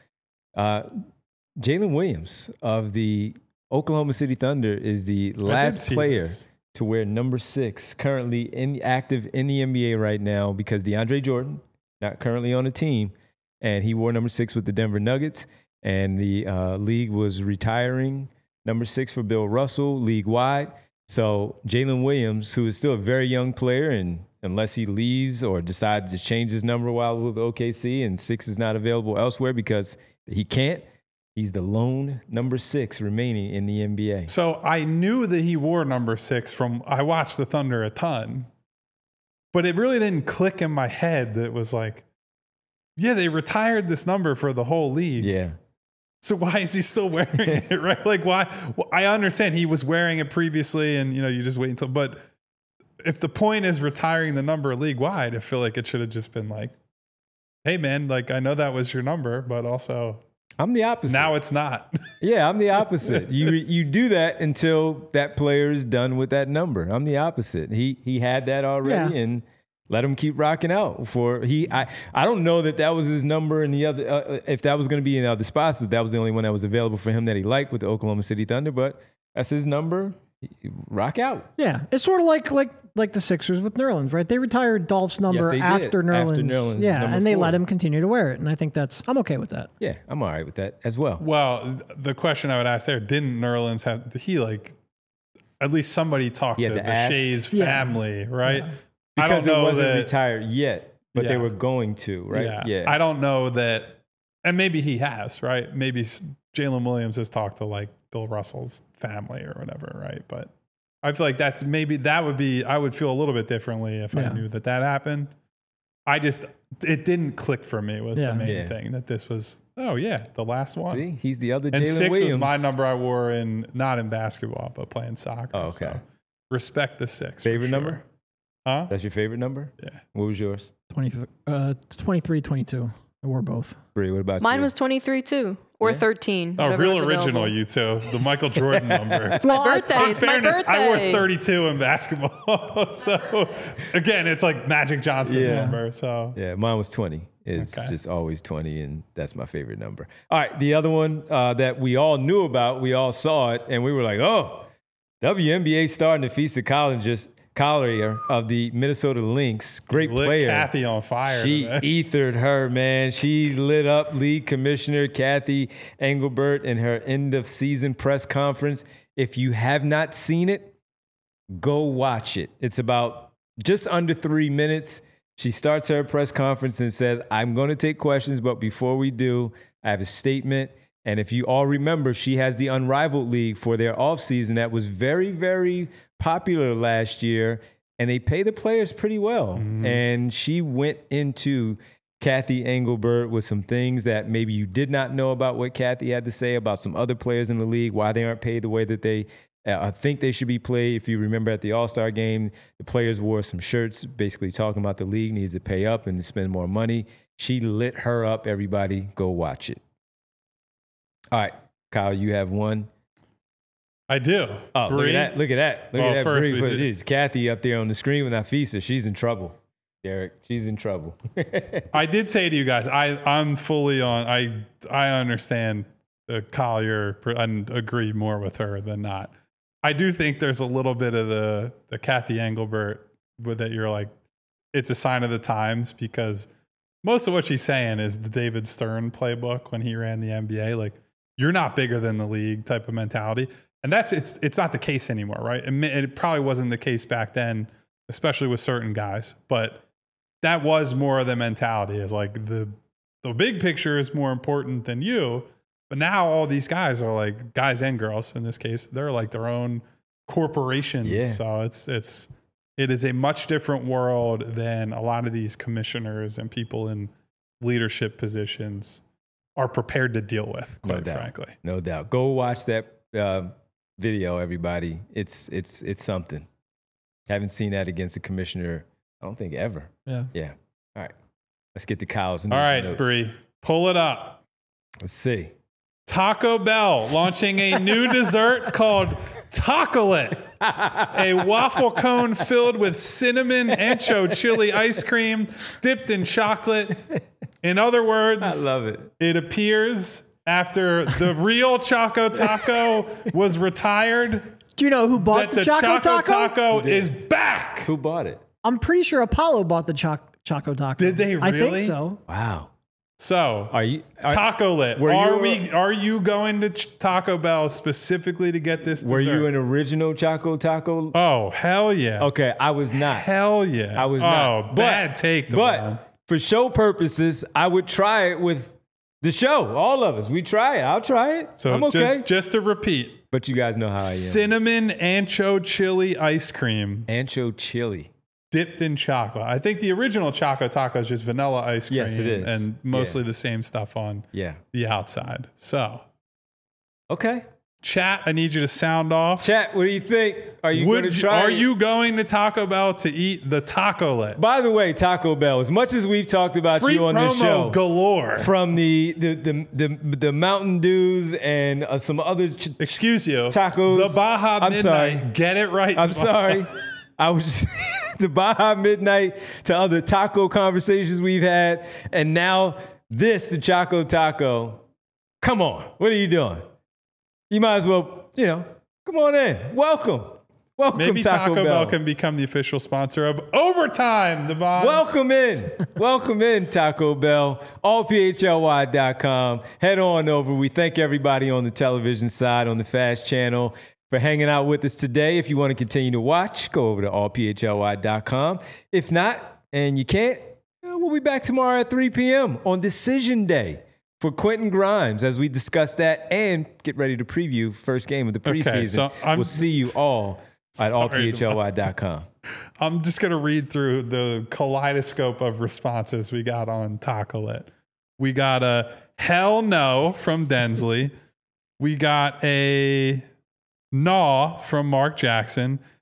Jalen Williams of the Oklahoma City Thunder is the last player to wear number 6, currently active in the NBA right now, because DeAndre Jordan, not currently on the team, and he wore number 6 with the Denver Nuggets. And the league was retiring number 6 for Bill Russell league-wide. So Jalen Williams, who is still a very young player, and unless he leaves or decides to change his number while with OKC and 6 is not available elsewhere because he can't, he's the lone number 6 remaining in the NBA. So I knew that he wore number 6 I watched the Thunder a ton, but it really didn't click in my head that it was like, yeah, they retired this number for the whole league. Yeah. So why is he still wearing it, right? Like, why? Well, I understand he was wearing it previously, and you just wait until. But if the point is retiring the number league wide, I feel like it should have just been like, "Hey, man, like I know that was your number, but also I'm the opposite. Now it's not." Yeah, I'm the opposite. You do that until that player is done with that number. I'm the opposite. He had that already, and let him keep rocking out. I don't know that was his number in the other. If that was going to be in other spots, that was the only one that was available for him that he liked with the Oklahoma City Thunder. But that's his number. Rock out. Yeah, it's sort of like the Sixers with Nerlens, right? They retired Dolph's number after Nerlens. Yeah, and they let him continue to wear it, and I think I'm okay with that. Yeah, I'm all right with that as well. Well, the question I would ask there: didn't Nerlens have? Did he at least somebody talked to the Shays family, right? Yeah. Because it wasn't retired yet, but they were going to, right? Yeah. I don't know that, and maybe he has, right? Maybe Jalen Williams has talked to Bill Russell's family or whatever, right? But I feel like I would feel a little bit differently if I knew that happened. It didn't click for me was the main thing, that this was, the last one. See, he's the other Jalen Williams. And 6 Williams. was my number I wore not in basketball, but playing soccer. Oh, okay. So respect the 6. Favorite number? Huh? That's your favorite number? Yeah. What was yours? 23, 22. I wore both. Bree, what about Mine you? was 23 too, or 13. Oh, whatever real was original, available. you two. The Michael Jordan number. It's my birthday. In It's my fairness, birthday. I wore 32 in basketball. So, again, it's like Magic Johnson Yeah. number. So, Yeah, mine was 20. It's Okay. just always 20, and that's my favorite number. All right, the other one that we all knew about, we all saw it, and we were like, oh, WNBA star Nafisa Collier of the Minnesota Lynx, great lit player. Kathy on fire. She today. ethered her, man. She lit up league commissioner Kathy Engelbert in her end of season press conference. If you have not seen it, go watch it. It's about just under 3 minutes. She starts her press conference and says, I'm going to take questions, but before we do, I have a statement. And if you all remember, she has the Unrivaled League for their offseason that was very, very popular last year, and they pay the players pretty well. And she went into Kathy Engelbert with some things that maybe you did not know about what Kathy had to say about some other players in the league, why they aren't paid the way that they think they should be played. If you remember at the All-Star game, the players wore some shirts basically talking about the league needs to pay up and to spend more money. She lit her up, everybody. Go watch it. All right, Kyle, you have one. I do. Oh, Bree? look at that. Look at that. Look Well, at that. first Bree we put see- it is. Kathy up there on the screen with Nafisa. She's in trouble. Derek, she's in trouble. I did say to you guys, I'm fully on. I understand Collier and agree more with her than not. I do think there's a little bit of the Kathy Engelbert with that. You're like, it's a sign of the times, because most of what she's saying is the David Stern playbook when he ran the NBA. Like, you're not bigger than the league type of mentality. And it's not the case anymore, right? It probably wasn't the case back then, especially with certain guys. But that was more of the mentality, is like the big picture is more important than you. But now all these guys are like, guys and girls in this case, they're like their own corporations. Yeah. So it is a much different world than a lot of these commissioners and people in leadership positions are prepared to deal with, quite frankly. No doubt. Go watch that video, everybody. It's something. Haven't seen that against a commissioner, I don't think, ever. Yeah. Yeah. All right. Let's get to Kyle's news All and right, notes. Bree, pull it up. Let's see. Taco Bell launching a new dessert called Tacolet, a waffle cone filled with cinnamon ancho chili ice cream dipped in chocolate. In other words, I love it. It appears after the real Choco Taco was retired, Do you know who bought that the Choco Taco? is back. Who bought it? I'm pretty sure Apollo bought the Choco Taco. Did they I think really? so. Wow. So, Tacolet. were you, Are you going to Taco Bell specifically to get this dessert? Were you an original Choco Taco? Oh, hell yeah. Okay, I was not. Hell yeah. I was not. Oh, bad take. But Devon. for show purposes, I would try it with the show. All of us. We try it. I'll try it. So I'm okay. Just to repeat, But you guys know how I am. cinnamon ancho chili ice cream Ancho chili. dipped in chocolate. I think the original Choco Taco is just vanilla ice cream. Yes, it is. And mostly the same stuff on Yeah. the outside. So, Okay. chat, I need you to sound off. Chat, what do you think? Are you going to try Are it? you going to Taco Bell to eat the Tacolet? By the way, Taco Bell, as much as we've talked about Free you on this promo show, galore. from the Mountain Dews and some other Excuse you. tacos. The Baja I'm Midnight. sorry. Get it right. I'm Devon. sorry. I was just the Baja Midnight to other taco conversations we've had, and now this, the Choco Taco. Come on, what are you doing? You might as well, come on in. Welcome, Maybe Taco Bell. can become the official sponsor of Overtime, Devon. Welcome in, Taco Bell. AllPHLY.com. Head on over. We thank everybody on the television side, on the Fast Channel, for hanging out with us today. If you want to continue to watch, go over to allphly.com. If not, and you can't, we'll be back tomorrow at 3 p.m. on Decision Day for Quentin Grimes as we discuss that and get ready to preview first game of the preseason. so we'll see you all at Sorry, allphly.com. I'm just going to read through the kaleidoscope of responses we got on Tacolet. We got a hell no from Densley. We got a gnaw from Mark Jackson.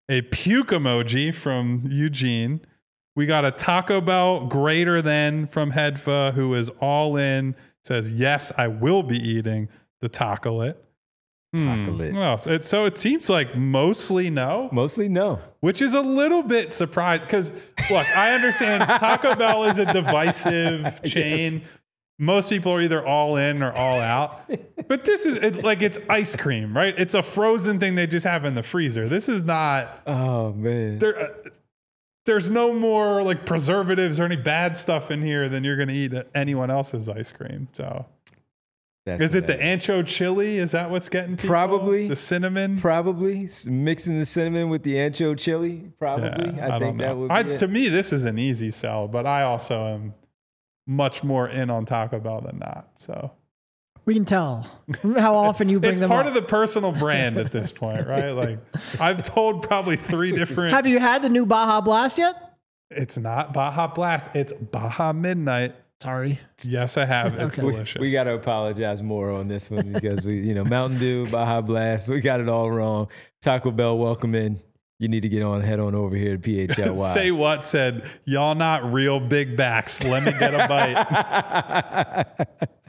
a puke emoji from Eugene. We got a Taco Bell greater than from Hedfa, who is all in. Says, yes, I will be eating the tacolet. Tacolet. Well, so it seems like mostly no. Mostly no. Which is a little bit surprised because, look, I understand Taco Bell is a divisive chain. Yes. Most people are either all in or all out. But this is it's ice cream, right? It's a frozen thing they just have in the freezer. This is not. Oh, man. There's no more like preservatives or any bad stuff in here than you're going to eat anyone else's ice cream. So. Is it the ancho chili? Is that what's getting people? Probably. The cinnamon? Probably. Mixing the cinnamon with the ancho chili? Probably. Yeah, I think that would be To me, this is an easy sell, but I also am much more in on Taco Bell than not. So we can tell how often you bring them up. It's part of the personal brand at this point, right? Like I've told probably 3 different. Have you had the new Baja Blast yet? It's not Baja Blast. It's Baja Midnight. Sorry. Yes, I have. It's delicious. We got to apologize more on this one because Mountain Dew, Baja Blast, we got it all wrong. Taco Bell, welcome in. You need to head on over here to PHLY. Say what said, y'all not real big backs. Let me get a bite.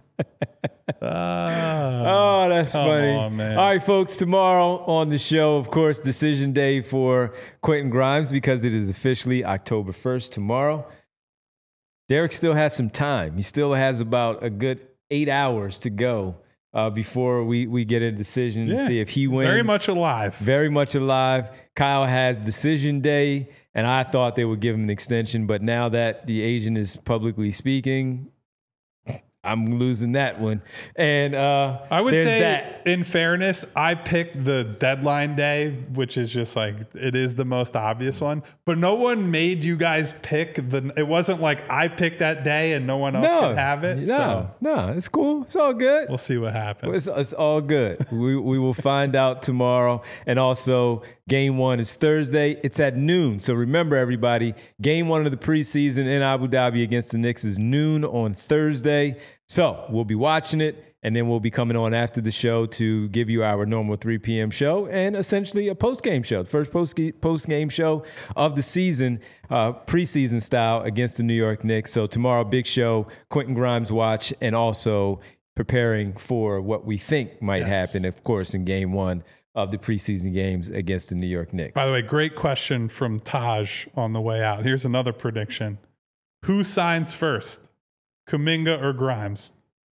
Oh, that's funny. On, man. All right, folks, tomorrow on the show, of course, decision day for Quentin Grimes because it is officially October 1st tomorrow. Derek still has some time. He still has about a good 8 hours to go before we get a decision to see if he wins. Very much alive. Very much alive. Kyle has decision day, and I thought they would give him an extension, but now that the agent is publicly speaking, I'm losing that one. And I would say, in fairness, I picked the deadline day, which is just like, it is the most obvious one. But no one made you guys pick it wasn't like I picked that day and no one else could have it. No, it's cool. It's all good. We'll see what happens. It's all good. we will find out tomorrow. And also, game 1 is Thursday. It's at noon. So remember, everybody, game 1 of the preseason in Abu Dhabi against the Knicks is noon on Thursday. So we'll be watching it, and then we'll be coming on after the show to give you our normal 3 p.m. show and essentially a post-game show, the first post-game show of the season, preseason style against the New York Knicks. So tomorrow, big show, Quentin Grimes watch, and also preparing for what we think might happen, of course, in game 1 of the preseason games against the New York Knicks. By the way, great question from Taj on the way out. Here's another prediction. Who signs first? Kuminga or Grimes?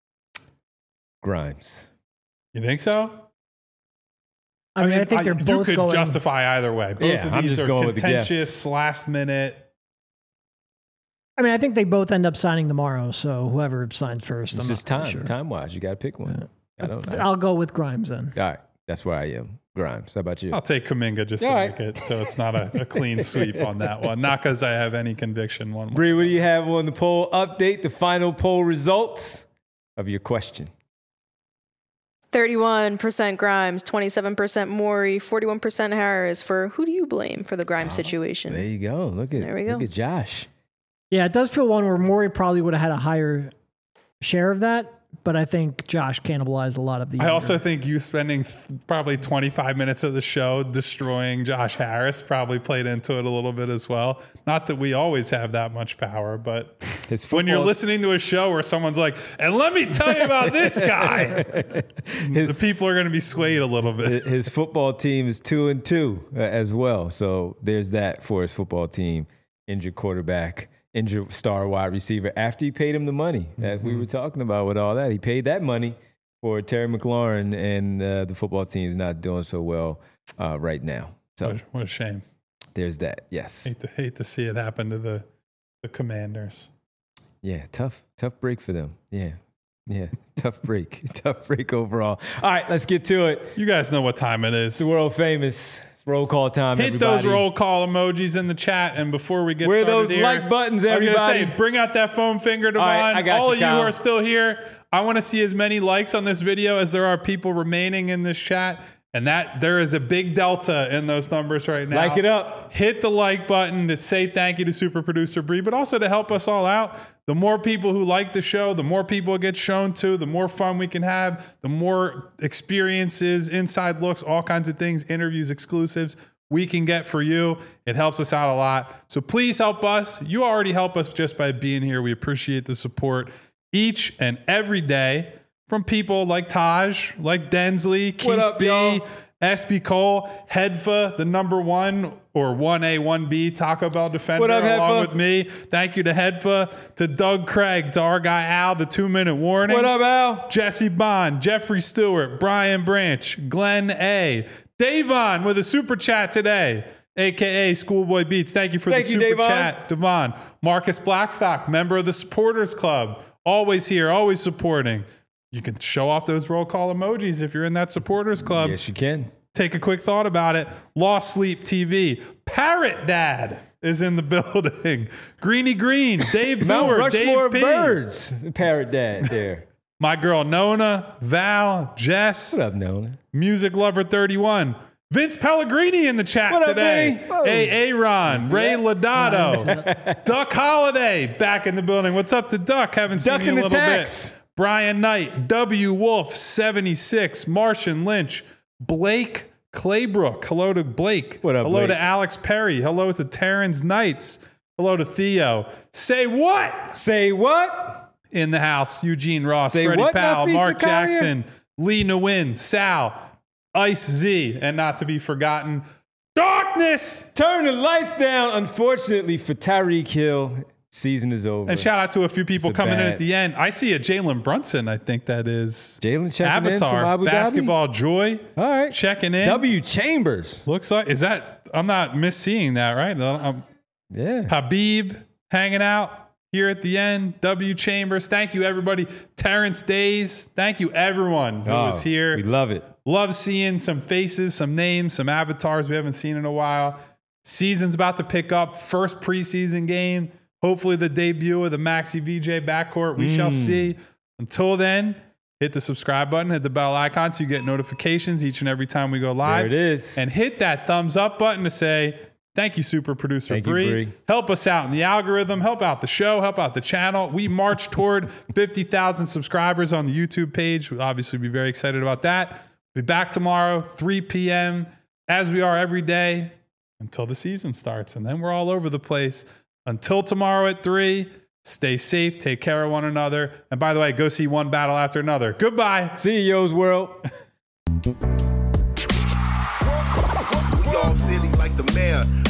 Grimes. You think so? I mean, I think they're both You could going, justify either way. Both of these I'm just are going with the guess. contentious, last minute. I mean, I think they both end up signing tomorrow, so whoever signs first. It's just time-wise. You got to pick one. Yeah. I'll go with Grimes then. All right. That's where I am. Grimes. How about you? I'll take Kuminga just to make it so it's not a clean sweep on that one. Not because I have any conviction one way. Bree, what do you have on the poll update? The final poll results of your question. 31% Grimes, 27% Morey, 41% Harris for who do you blame for the Grimes situation? There you go. Look at Josh. Yeah, it does feel one where Morey probably would have had a higher share of that. But I think Josh cannibalized a lot of the. I also think you spending probably 25 minutes of the show destroying Josh Harris probably played into it a little bit as well. Not that we always have that much power, but when you're listening to a show where someone's like, and let me tell you about this guy, the people are going to be swayed a little bit. His football team is 2-2 as well. So there's that for his football team. Injured quarterback. Injured star wide receiver after he paid him the money that we were talking about with all that. He paid that money for Terry McLaurin, and the football team is not doing so well right now. So what a shame. There's that. Yes. Hate to see it happen to the Commanders. Yeah, tough break for them. Yeah, tough break overall. All right, let's get to it. You guys know what time it is. It's the world famous roll call time. Hit everybody. Those roll call emojis in the chat. And before we get Where started those like buttons, everybody. I was going to say, bring out that foam finger, Devon. All right, all of you Kyle. who are still here, I want to see as many likes on this video as there are people remaining in this chat. And that there is a big delta in those numbers right now. Like it up. Hit the like button to say thank you to super producer Bree, but also to help us all out. The more people who like the show, the more people it gets shown to, the more fun we can have, the more experiences, inside looks, all kinds of things, interviews, exclusives we can get for you. It helps us out a lot. So please help us. You already help us just by being here. We appreciate the support each and every day from people like Taj, like Densley, Keith up, B, y'all? SB Cole, Hedfa, the number 1 or 1A, 1B Taco Bell defender, What up, along Hedfa? with me. Thank you to Hedfa, to Doug Craig, to our guy Al, the 2-minute warning. What up, Al? Jesse Bond, Jeffrey Stewart, Brian Branch, Glenn A, Davon with a super chat today, aka Schoolboy Beats. Thank you for Thank the you, super Davon. chat, Devon. Marcus Blackstock, member of the Supporters Club, always here, always supporting. You can show off those roll call emojis if you're in that Supporters Club. Yes, you can. Take a quick thought about it. Lost Sleep TV. Parrot Dad is in the building. Greeny Green, Dave Mount Dewar, Rushmore Dave P. Birds. Parrot Dad there. My girl Nona, Val, Jess, What up, Nolan? Music Lover 31. Vince Pellegrini in the chat What up, today. Vinny? Whoa. Aaron, Ray Lodato, Duck Holiday back in the building. What's up to Duck? Haven't seen Duck you in in a the little tax. bit. Brian Knight, W Wolf 76, Martian Lynch, Blake Claybrook. Hello to Blake. What up, Hello Blake? to Alex Perry. Hello to Terrence Knights. Hello to Theo. Say what? Say what? In the house, Eugene Ross, Say Freddie what, Powell, Nafisa Mark Collier? Jackson, Lee Nguyen, Sal, Ice Z, and not to be forgotten, Darkness. Turn the lights down. Unfortunately for Tyreek Hill, season is over. And shout out to a few people It's a coming in bad- at the end. I see a Jalen Brunson, I think that is. Jalen checking in from Avatar, Abu Dhabi? Basketball Joy. All right. Checking in. W Chambers. Looks like, is that, I'm not misseeing that, right? Yeah. Habib hanging out here at the end. W Chambers. Thank you, everybody. Terrence Days. Thank you, everyone who was here. We love it. Love seeing some faces, some names, some avatars we haven't seen in a while. Season's about to pick up. First preseason game. Hopefully the debut of the Maxi VJ backcourt. We shall see. Until then, hit the subscribe button, hit the bell icon so you get notifications each and every time we go live. There it is. And hit that thumbs up button to say, thank you, super producer Thank you, Bree. Bree. Help us out in the algorithm. Help out the show. Help out the channel. We march toward 50,000 subscribers on the YouTube page. We'll obviously be very excited about that. Be back tomorrow, 3 p.m., as we are every day until the season starts. And then we're all over the place. Until tomorrow at 3, stay safe, take care of one another. And by the way, go see one battle after another. Goodbye. See you, Yo's World. We all silly like the mayor.